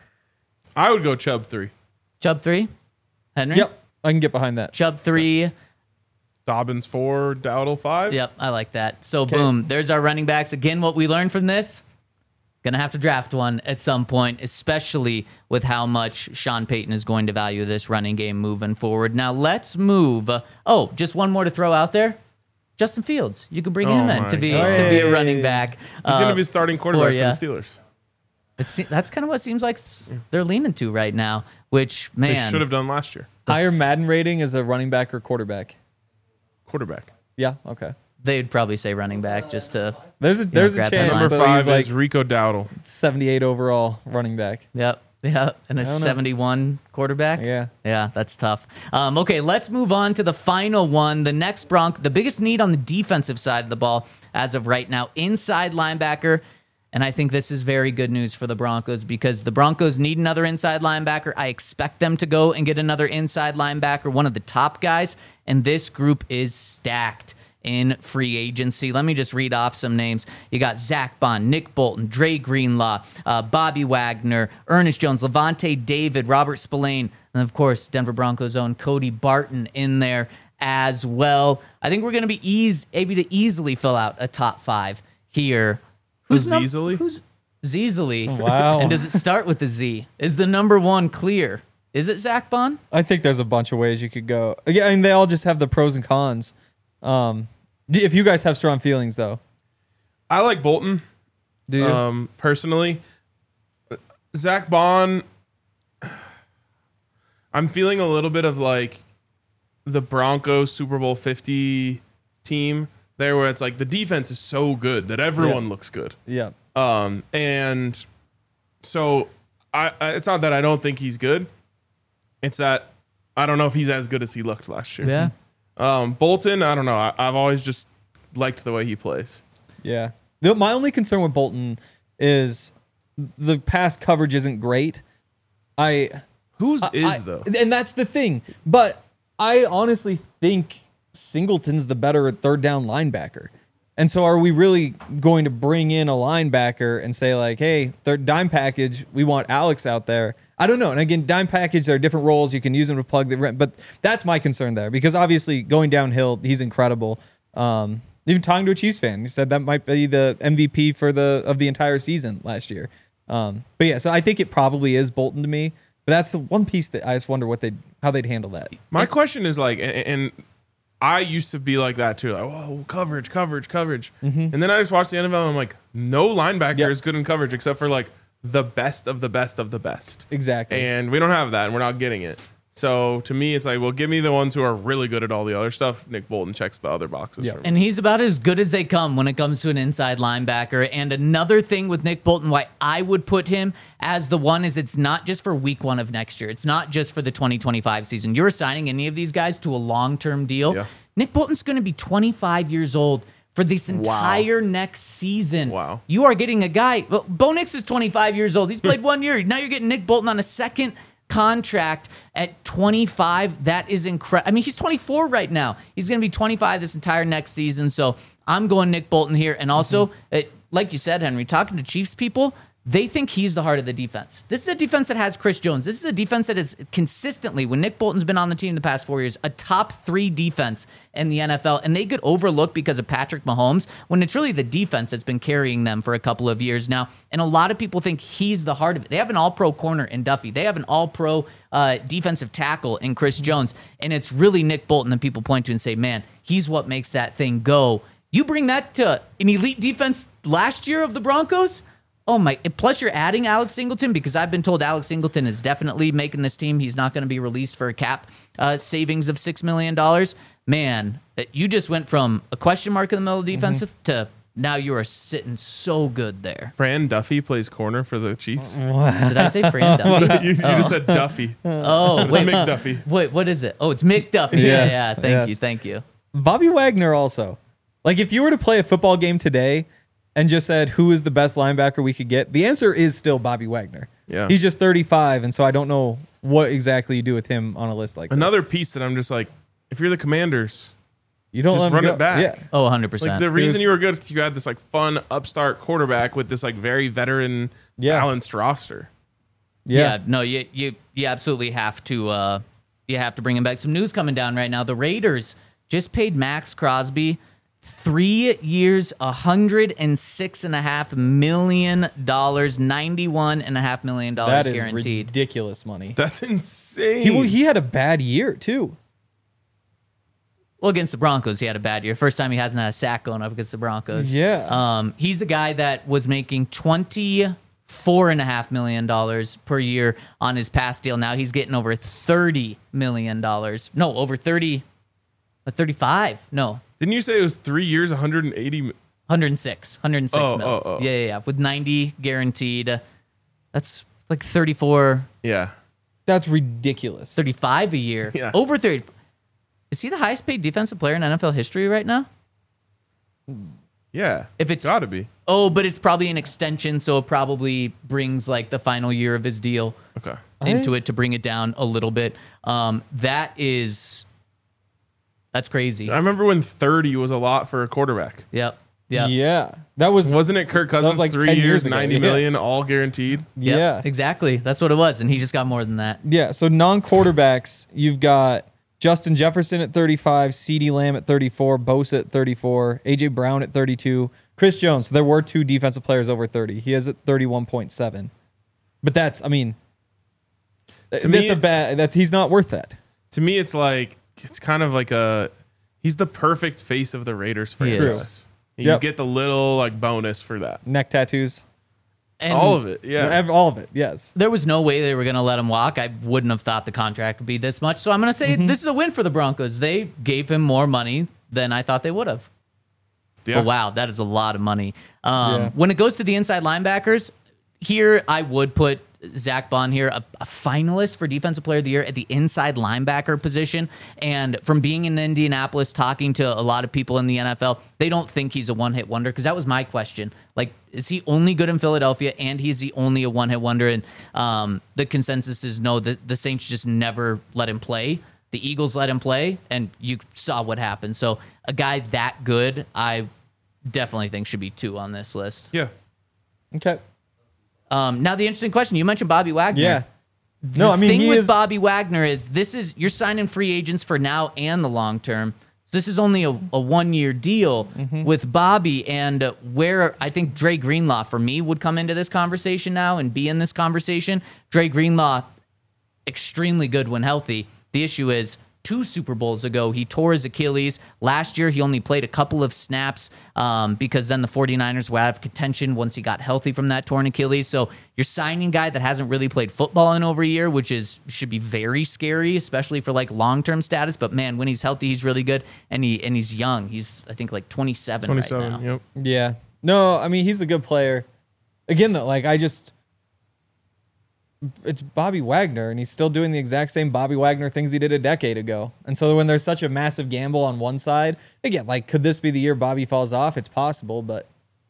I would go Chubb 3. Chubb 3. Henry. Yep, I can get behind that. Chubb 3. Dobbins 4, Dowdle 5. Yep, I like that. So boom, there's our running backs. Again, what we learned from this, gonna have to draft one at some point, especially with how much Sean Payton is going to value this running game moving forward. Now let's move. Just one more to throw out there. Justin Fields. You can bring him in to be a running back. He's going to be starting quarterback for yeah. the Steelers. That's kind of what it seems like they're leaning to right now, which, man. They should have done last year. Higher Madden rating as a running back or quarterback? Quarterback. Yeah, okay. They'd probably say running back just to. There's a grab chance that Number that 5 he's like is Rico Dowdle. 78 overall running back. Yep. And a don't know. 71 quarterback. Yeah. Yeah, that's tough. Okay, let's move on to the final one. The next the biggest need on the defensive side of the ball as of right now, inside linebacker. And I think this is very good news for the Broncos because the Broncos need another inside linebacker. I expect them to go and get another inside linebacker, one of the top guys. And this group is stacked in free agency. Let me just read off some names. You got Zach Bond, Nick Bolton, Dre Greenlaw, Bobby Wagner, Ernest Jones, Levante David, Robert Spillane, and of course, Denver Broncos' own Cody Barton in there as well. I think we're going to be able to easily fill out a top 5 here. Who's easily? Who's Zeezily? Wow. And does it start with a Z? Is the number 1 clear? Is it Zach Bond? I think there's a bunch of ways you could go. Yeah, I mean, they all just have the pros and cons. If you guys have strong feelings, though. I like Bolton. Do you? Personally. Zach Bond, I'm feeling a little bit of like the Broncos Super Bowl 50 team there where it's like the defense is so good that everyone looks good. Yeah. And so I it's not that I don't think he's good. It's that I don't know if he's as good as he looked last year. Yeah. Bolton, I don't know. I've always just liked the way he plays. Yeah. My only concern with Bolton is the pass coverage isn't great. Whose is though? And that's the thing. But I honestly think Singleton's the better third down linebacker. And so are we really going to bring in a linebacker and say like, hey, third dime package, we want Alex out there? I don't know. And again, dime package, there are different roles. You can use them to plug the rent. But that's my concern there because obviously going downhill, he's incredible. Even talking to a Chiefs fan, he said that might be the MVP of the entire season last year. But yeah, so I think it probably is Bolton to me. But that's the one piece that I just wonder how they'd handle that. My question is like, and I used to be like that too. Like, whoa, coverage. Mm-hmm. And then I just watched the NFL and I'm like, no linebacker is good in coverage except for like the best of the best of the best. Exactly. And we don't have that and we're not getting it. So to me, it's like, well, give me the ones who are really good at all the other stuff. Nick Bolton checks the other boxes. Yeah. For me. And he's about as good as they come when it comes to an inside linebacker. And another thing with Nick Bolton, why I would put him as the one is it's not just for week 1 of next year. It's not just for the 2025 season. You're signing any of these guys to a long-term deal. Yeah. Nick Bolton's going to be 25 years old for this entire next season. Wow. You are getting a guy. Well, Bo Nix is 25 years old. He's played 1 year. Now you're getting Nick Bolton on a second contract at 25. That is incredible. I mean, he's 24 right now. He's going to be 25 this entire next season. So I'm going Nick Bolton here. And also, like you said, Henry, talking to Chiefs people, they think he's the heart of the defense. This is a defense that has Chris Jones. This is a defense that is consistently, when Nick Bolton's been on the team the past 4 years, a top 3 defense in the NFL. And they get overlooked because of Patrick Mahomes when it's really the defense that's been carrying them for a couple of years now. And a lot of people think he's the heart of it. They have an all-pro corner in Duffy. They have an all-pro defensive tackle in Chris Jones. And it's really Nick Bolton that people point to and say, man, he's what makes that thing go. You bring that to an elite defense last year of the Broncos? Oh my! Plus, you're adding Alex Singleton because I've been told Alex Singleton is definitely making this team. He's not going to be released for a cap savings of $6 million. Man, you just went from a question mark in the middle of defensive to now you are sitting so good there. Fran Duffy plays corner for the Chiefs. Did I say Fran Duffy? you just said Duffy. Oh, It's wait, McDuffie. wait, what is it? Oh, it's Mick Duffy. Yes, Yeah, thank you. Bobby Wagner also. Like if you were to play a football game today and just said who is the best linebacker we could get, the answer is still Bobby Wagner. Yeah. He's just 35, and so I don't know what exactly you do with him on a list like Another this. piece that I'm just like, if you're the Commanders, You don't just let him run go. it back. Yeah. Oh, 100%. like the reason you were good is you had this like fun upstart quarterback with this like very veteran balanced roster. Yeah. No, you absolutely have to bring him back. Some news coming down right now. The Raiders just paid Max Crosby 3 years, $106.5 million, $91.5 million That is guaranteed. ridiculous money. That's insane. He had a bad year too. Well, against the Broncos, he had a bad year. First time he hasn't had a sack going up against the Broncos. Yeah. He's a guy that was making $24.5 million per year on his past deal. Now he's getting over $30 million. No, over 30, 35. No, Didn't you say it was 3 years, 180? 106 mil. Yeah. With 90 guaranteed. That's like 34, Yeah. That's ridiculous. 35 a year. Yeah. Over 30. Is he the highest paid defensive player in NFL history right now? Yeah. If it's- gotta be. Oh, but it's probably an extension, so it probably brings like the final year of his deal Okay. into it to bring it down a little bit. That's crazy. I remember when 30 was a lot for a quarterback. Yep. Yeah. That was Wasn't it Kirk Cousins like 3 10 years, years ago. 90 Yeah. million, all guaranteed? Yep, yeah. exactly. That's what it was, and he just got more than that. Yeah, so non-quarterbacks, you've got Justin Jefferson at 35, CeeDee Lamb at 34, Bosa at 34, A.J. Brown at 32, Chris Jones. So there were 2 defensive players over 30. He is at 31.7. But that's me, he's not worth that. To me, it's kind of like he's the perfect face of the Raiders He is. franchise. You Yep. get the little like bonus for that. Neck tattoos. And All of it. Yeah. All of it, yes. there was no way they were going to let him walk. I wouldn't have thought the contract would be this much. So I'm going to say this is a win for the Broncos. They gave him more money than I thought they would have. Yeah. Oh, wow, that is a lot of money. Yeah. When it goes to the inside linebackers, here I would put Zach Bond here, a finalist for Defensive Player of the Year at the inside linebacker position. And from being in Indianapolis, talking to a lot of people in the NFL, they don't think he's a one-hit wonder, because that was my question. Like, is he only good in Philadelphia, and he's the only a one-hit wonder? And the consensus is no, the Saints just never let him play. The Eagles let him play, and you saw what happened. So a guy that good, I definitely think should be 2 on this list. Yeah. Okay. Now the interesting question, you mentioned Bobby Wagner. Yeah. No, I mean, thing he with is. Bobby Wagner is you're signing free agents for now and the long term. So this is only a 1-year deal with Bobby, and where I think Dre Greenlaw for me would come into this conversation now and be in this conversation. Dre Greenlaw, extremely good when healthy. The issue is 2 Super Bowls ago, he tore his Achilles. Last year, he only played a couple of snaps because then the 49ers were out of contention once he got healthy from that torn Achilles. So you're signing a guy that hasn't really played football in over a year, which should be very scary, especially for like long-term status. But man, when he's healthy, he's really good, and he's young. He's I think like 27 right now. Yep. Yeah. No, I mean, he's a good player. Again, though, like it's Bobby Wagner, and he's still doing the exact same Bobby Wagner things he did a decade ago. And so when there's such a massive gamble on one side, again, like, could this be the year Bobby falls off? It's possible, but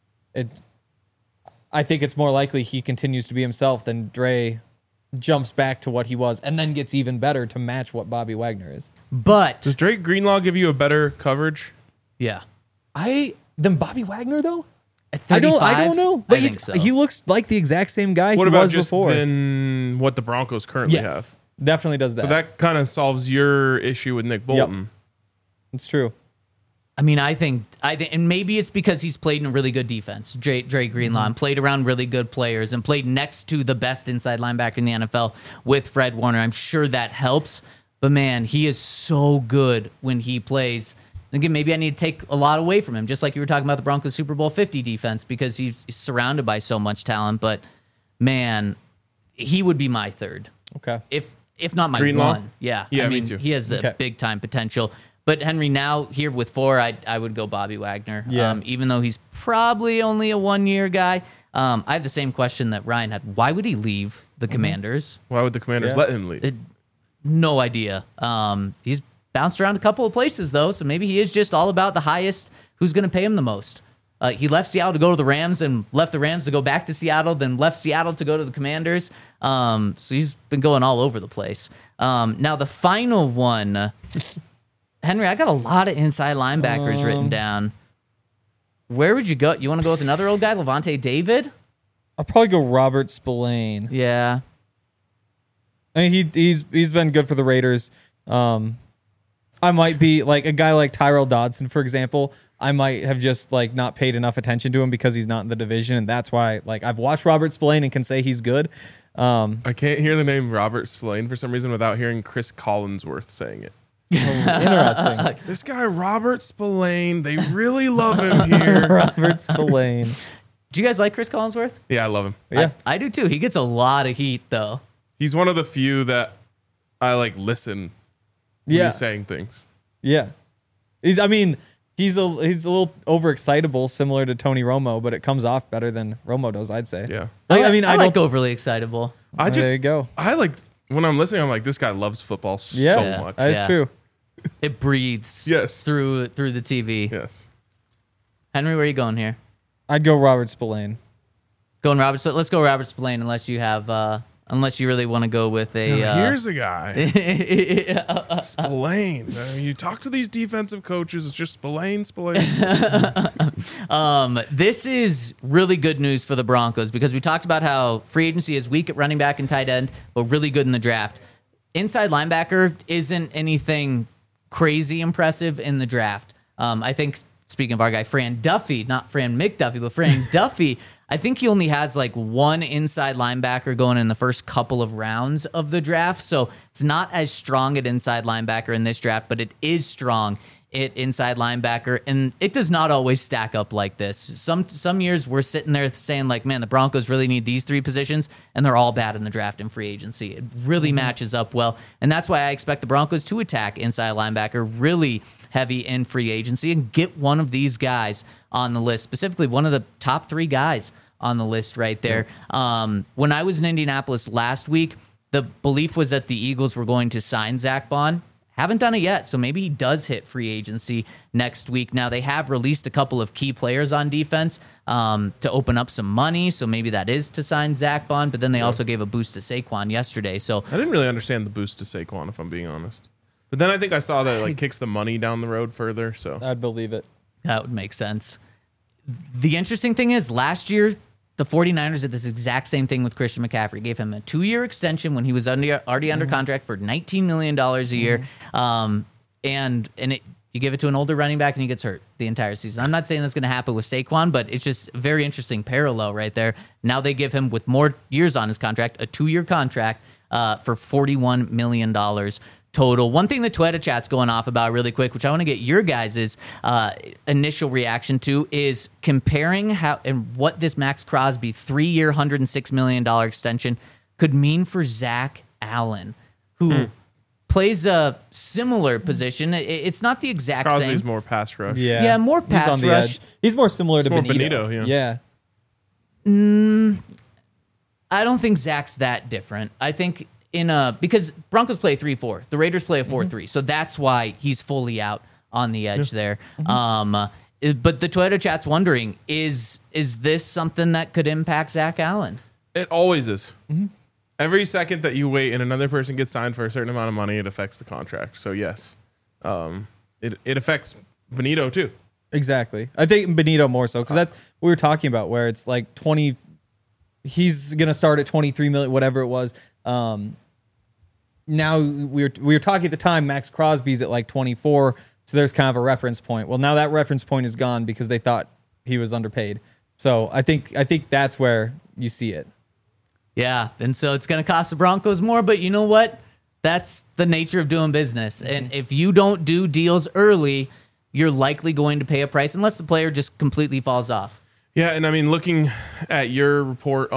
I think it's more likely he continues to be himself than Dre jumps back to what he was and then gets even better to match what Bobby Wagner is. But Does Drake Greenlaw give you a better coverage? yeah, Than Bobby Wagner, though? at I 35, don't know. But I think so. he looks like the exact same guy What he about was just before. then what the Broncos currently Yes, have? definitely does that. So that kind of solves your issue with Nick Bolton. It's true. I mean, I think, and maybe it's because he's played in a really good defense, Dre Greenlaw, and played around really good players and played next to the best inside linebacker in the NFL with Fred Warner. I'm sure that helps, but man, he is so good when he plays. Again, maybe I need to take a lot away from him, just like you were talking about the Broncos Super Bowl 50 defense, because he's surrounded by so much talent. But man, he would be my third, Okay. if not my Greenlaw? one. Yeah, Yeah, I me mean, too. he has the Okay. big time potential. But Henry, now here with 4, I would go Bobby Wagner. Yeah. Even though he's probably only a 1-year guy. I have the same question that Ryan had. Why would he leave the Commanders? Why would the Commanders Yeah. let him leave? No idea. He's bounced around a couple of places, though, so maybe he is just all about the highest, who's going to pay him the most. He left Seattle to go to the Rams and left the Rams to go back to Seattle, then left Seattle to go to the Commanders. So he's been going all over the place. Now, the final one, Henry, I got a lot of inside linebackers written down. Where would you go? You want to go with another old guy, Levante David? I'll probably go Robert Spillane. Yeah. I mean, he's been good for the Raiders. I might be like a guy like Tyrell Dodson, for example. I might have just like not paid enough attention to him because he's not in the division, and that's why like I've watched Robert Spillane and can say he's good. I can't hear the name Robert Spillane for some reason without hearing Chris Collinsworth saying it. Interesting. This guy, Robert Spillane, they really love him here. Robert Spillane. Do you guys like Chris Collinsworth? Yeah, I love him. Yeah. I do too. He gets a lot of heat, though. He's one of the few that I like listen when Yeah. he's saying things. Yeah. He's a little overexcitable, similar to Tony Romo, but it comes off better than Romo does, I'd say. Yeah. I like don't. overly excitable. I just There you go. I like when I'm listening, I'm like, this guy loves football Yeah, so much. that's Yeah. true. It breathes Yes. through the TV. Yes. Henry, where are you going here? I'd go Robert Spillane. Going Robert. So let's go Robert Spillane, unless you have, unless you really want to go with a. Now, here's a guy, Spillane. You talk to these defensive coaches, it's just Spillane. This is really good news for the Broncos because we talked about how free agency is weak at running back and tight end, but really good in the draft. Inside linebacker isn't anything crazy impressive in the draft. I think, speaking of our guy, Fran Duffy, not Fran McDuffie, but Fran Duffy, I think he only has like one inside linebacker going in the first couple of rounds of the draft. So it's not as strong at inside linebacker in this draft, but it is strong at inside linebacker. And it does not always stack up like this. Some years we're sitting there saying like, man, the Broncos really need these 3 positions, and they're all bad in the draft and free agency. It really matches up well. And that's why I expect the Broncos to attack inside linebacker really heavy in free agency and get one of these guys on the list, specifically one of the top 3 guys on the list right there. When I was in Indianapolis last week, the belief was that the Eagles were going to sign Zach Bond. Haven't done it yet, so maybe he does hit free agency next week. Now, they have released a couple of key players on defense to open up some money, so maybe that is to sign Zach Bond, but then they also gave a boost to Saquon yesterday. So I didn't really understand the boost to Saquon, if I'm being honest. But then I think I saw that it like kicks the money down the road further. So I'd believe it. that would make sense. The interesting thing is last year, the 49ers did this exact same thing with Christian McCaffrey. Gave him a 2-year extension when he was already under contract for $19 million a year. You give it to an older running back and he gets hurt the entire season. I'm not saying that's going to happen with Saquon, but it's just a very interesting parallel right there. Now they give him, with more years on his contract, a 2-year contract for $41 million total. One thing the Twitter chat's going off about really quick, which I want to get your guys' initial reaction to, is comparing how and what this Max Crosby 3-year, $106 million extension could mean for Zach Allen, who plays a similar position. It's not the exact Crosby's same. more pass rush. Yeah, more pass He's on the rush. edge. He's more similar to more Benito. Benito, Yeah. I don't think Zach's that different. I think because Broncos play 3-4, the Raiders play a 4-3, so that's why he's fully out on the edge there. But the Twitter chat's wondering, is this something that could impact Zach Allen? It always is. Every second that you wait and another person gets signed for a certain amount of money, it affects the contract. So yes, it affects Benito too. Exactly. I think Benito more so, because that's what we were talking about, where it's like 20. He's gonna start at 23 million, whatever it was. Now we were talking at the time, Max Crosby's at like 24, so there's kind of a reference point. Well, now that reference point is gone because they thought he was underpaid. So I think that's where you see it. Yeah, and so it's going to cost the Broncos more, but you know what? That's the nature of doing business. And if you don't do deals early, you're likely going to pay a price unless the player just completely falls off. Yeah, and I mean, looking at your report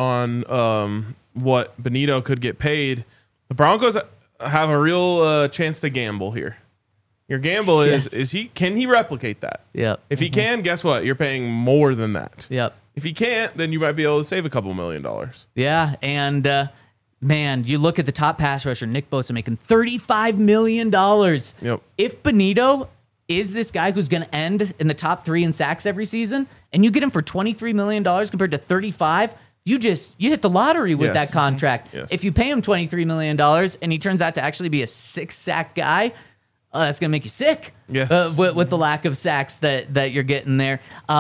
on what Benito could get paid, the Broncos have a real chance to gamble here. Your gamble is can he replicate that? Yep. If he can, guess what? You're paying more than that. Yep. If he can't, then you might be able to save a couple $1 million. Yeah, and man, you look at the top pass rusher, Nick Bosa, making $35 million. Yep. If Benito is this guy who's going to end in the top 3 in sacks every season, and you get him for $23 million compared to $35, you hit the lottery with Yes. that contract. Yes. If you pay him $23 million and he turns out to actually be a 6-sack guy, that's going to make you sick. Yes. With the lack of sacks that you're getting there.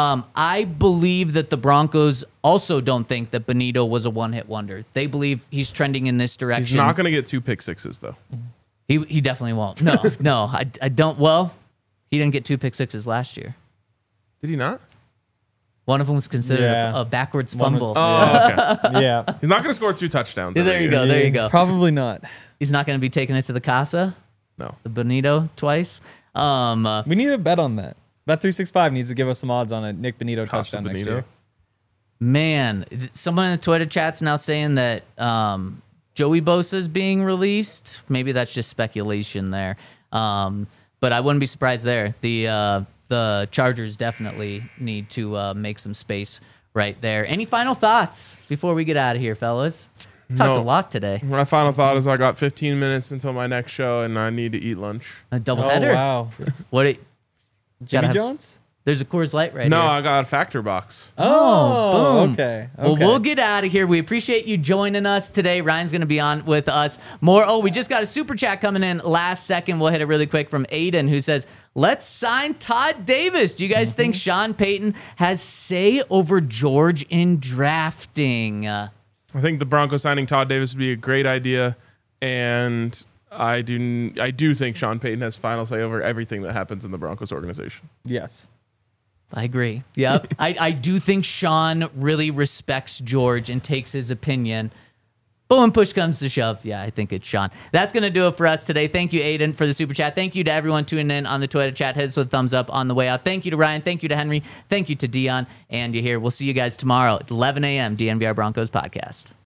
I believe that the Broncos also don't think that Benito was a one-hit wonder. They believe he's trending in this direction. He's not going to get 2 pick sixes, though. He definitely won't. No, I don't. Well, he didn't get 2 pick sixes last year. Did he not? One of them was considered Yeah. a backwards One was- fumble. Oh, okay. Yeah. He's not going to score 2 touchdowns. Yeah, there every you year. go. There you go. Probably not. He's not going to be taking it to the Casa, No. the Benito twice. We need a bet on that. Bet365 needs to give us some odds on a Nick Benito Costa touchdown next Benito. year. Man, someone in the Twitter chat's now saying that Joey Bosa is being released. Maybe that's just speculation there. But I wouldn't be surprised there. The Chargers definitely need to make some space right there. Any final thoughts before we get out of here, fellas? Talked a No. lot today. My final thought is I got 15 minutes until my next show, and I need to eat lunch. A Oh, doubleheader. wow. What? Gotta Jimmy have- Jones? There's a Coors Light right No, here. I got a Factor box. Oh, boom. okay. Well, Okay. we'll get out of here. We appreciate you joining us today. Ryan's going to be on with us more. Oh, we just got a super chat coming in last second. We'll hit it really quick from Aiden, who says, let's sign Todd Davis. Do you guys think Sean Payton has say over George in drafting? I think the Broncos signing Todd Davis would be a great idea, and I do think Sean Payton has final say over everything that happens in the Broncos organization. Yes. I agree. Yep. I do think Sean really respects George and takes his opinion. But when push comes to shove, yeah, I think it's Sean. That's going to do it for us today. Thank you, Aiden, for the super chat. Thank you to everyone tuning in on the Twitter chat. Hit us with a thumbs up on the way out. Thank you to Ryan. Thank you to Henry. Thank you to Dion. And you here. We'll see you guys tomorrow at 11 a.m. DNVR Broncos podcast.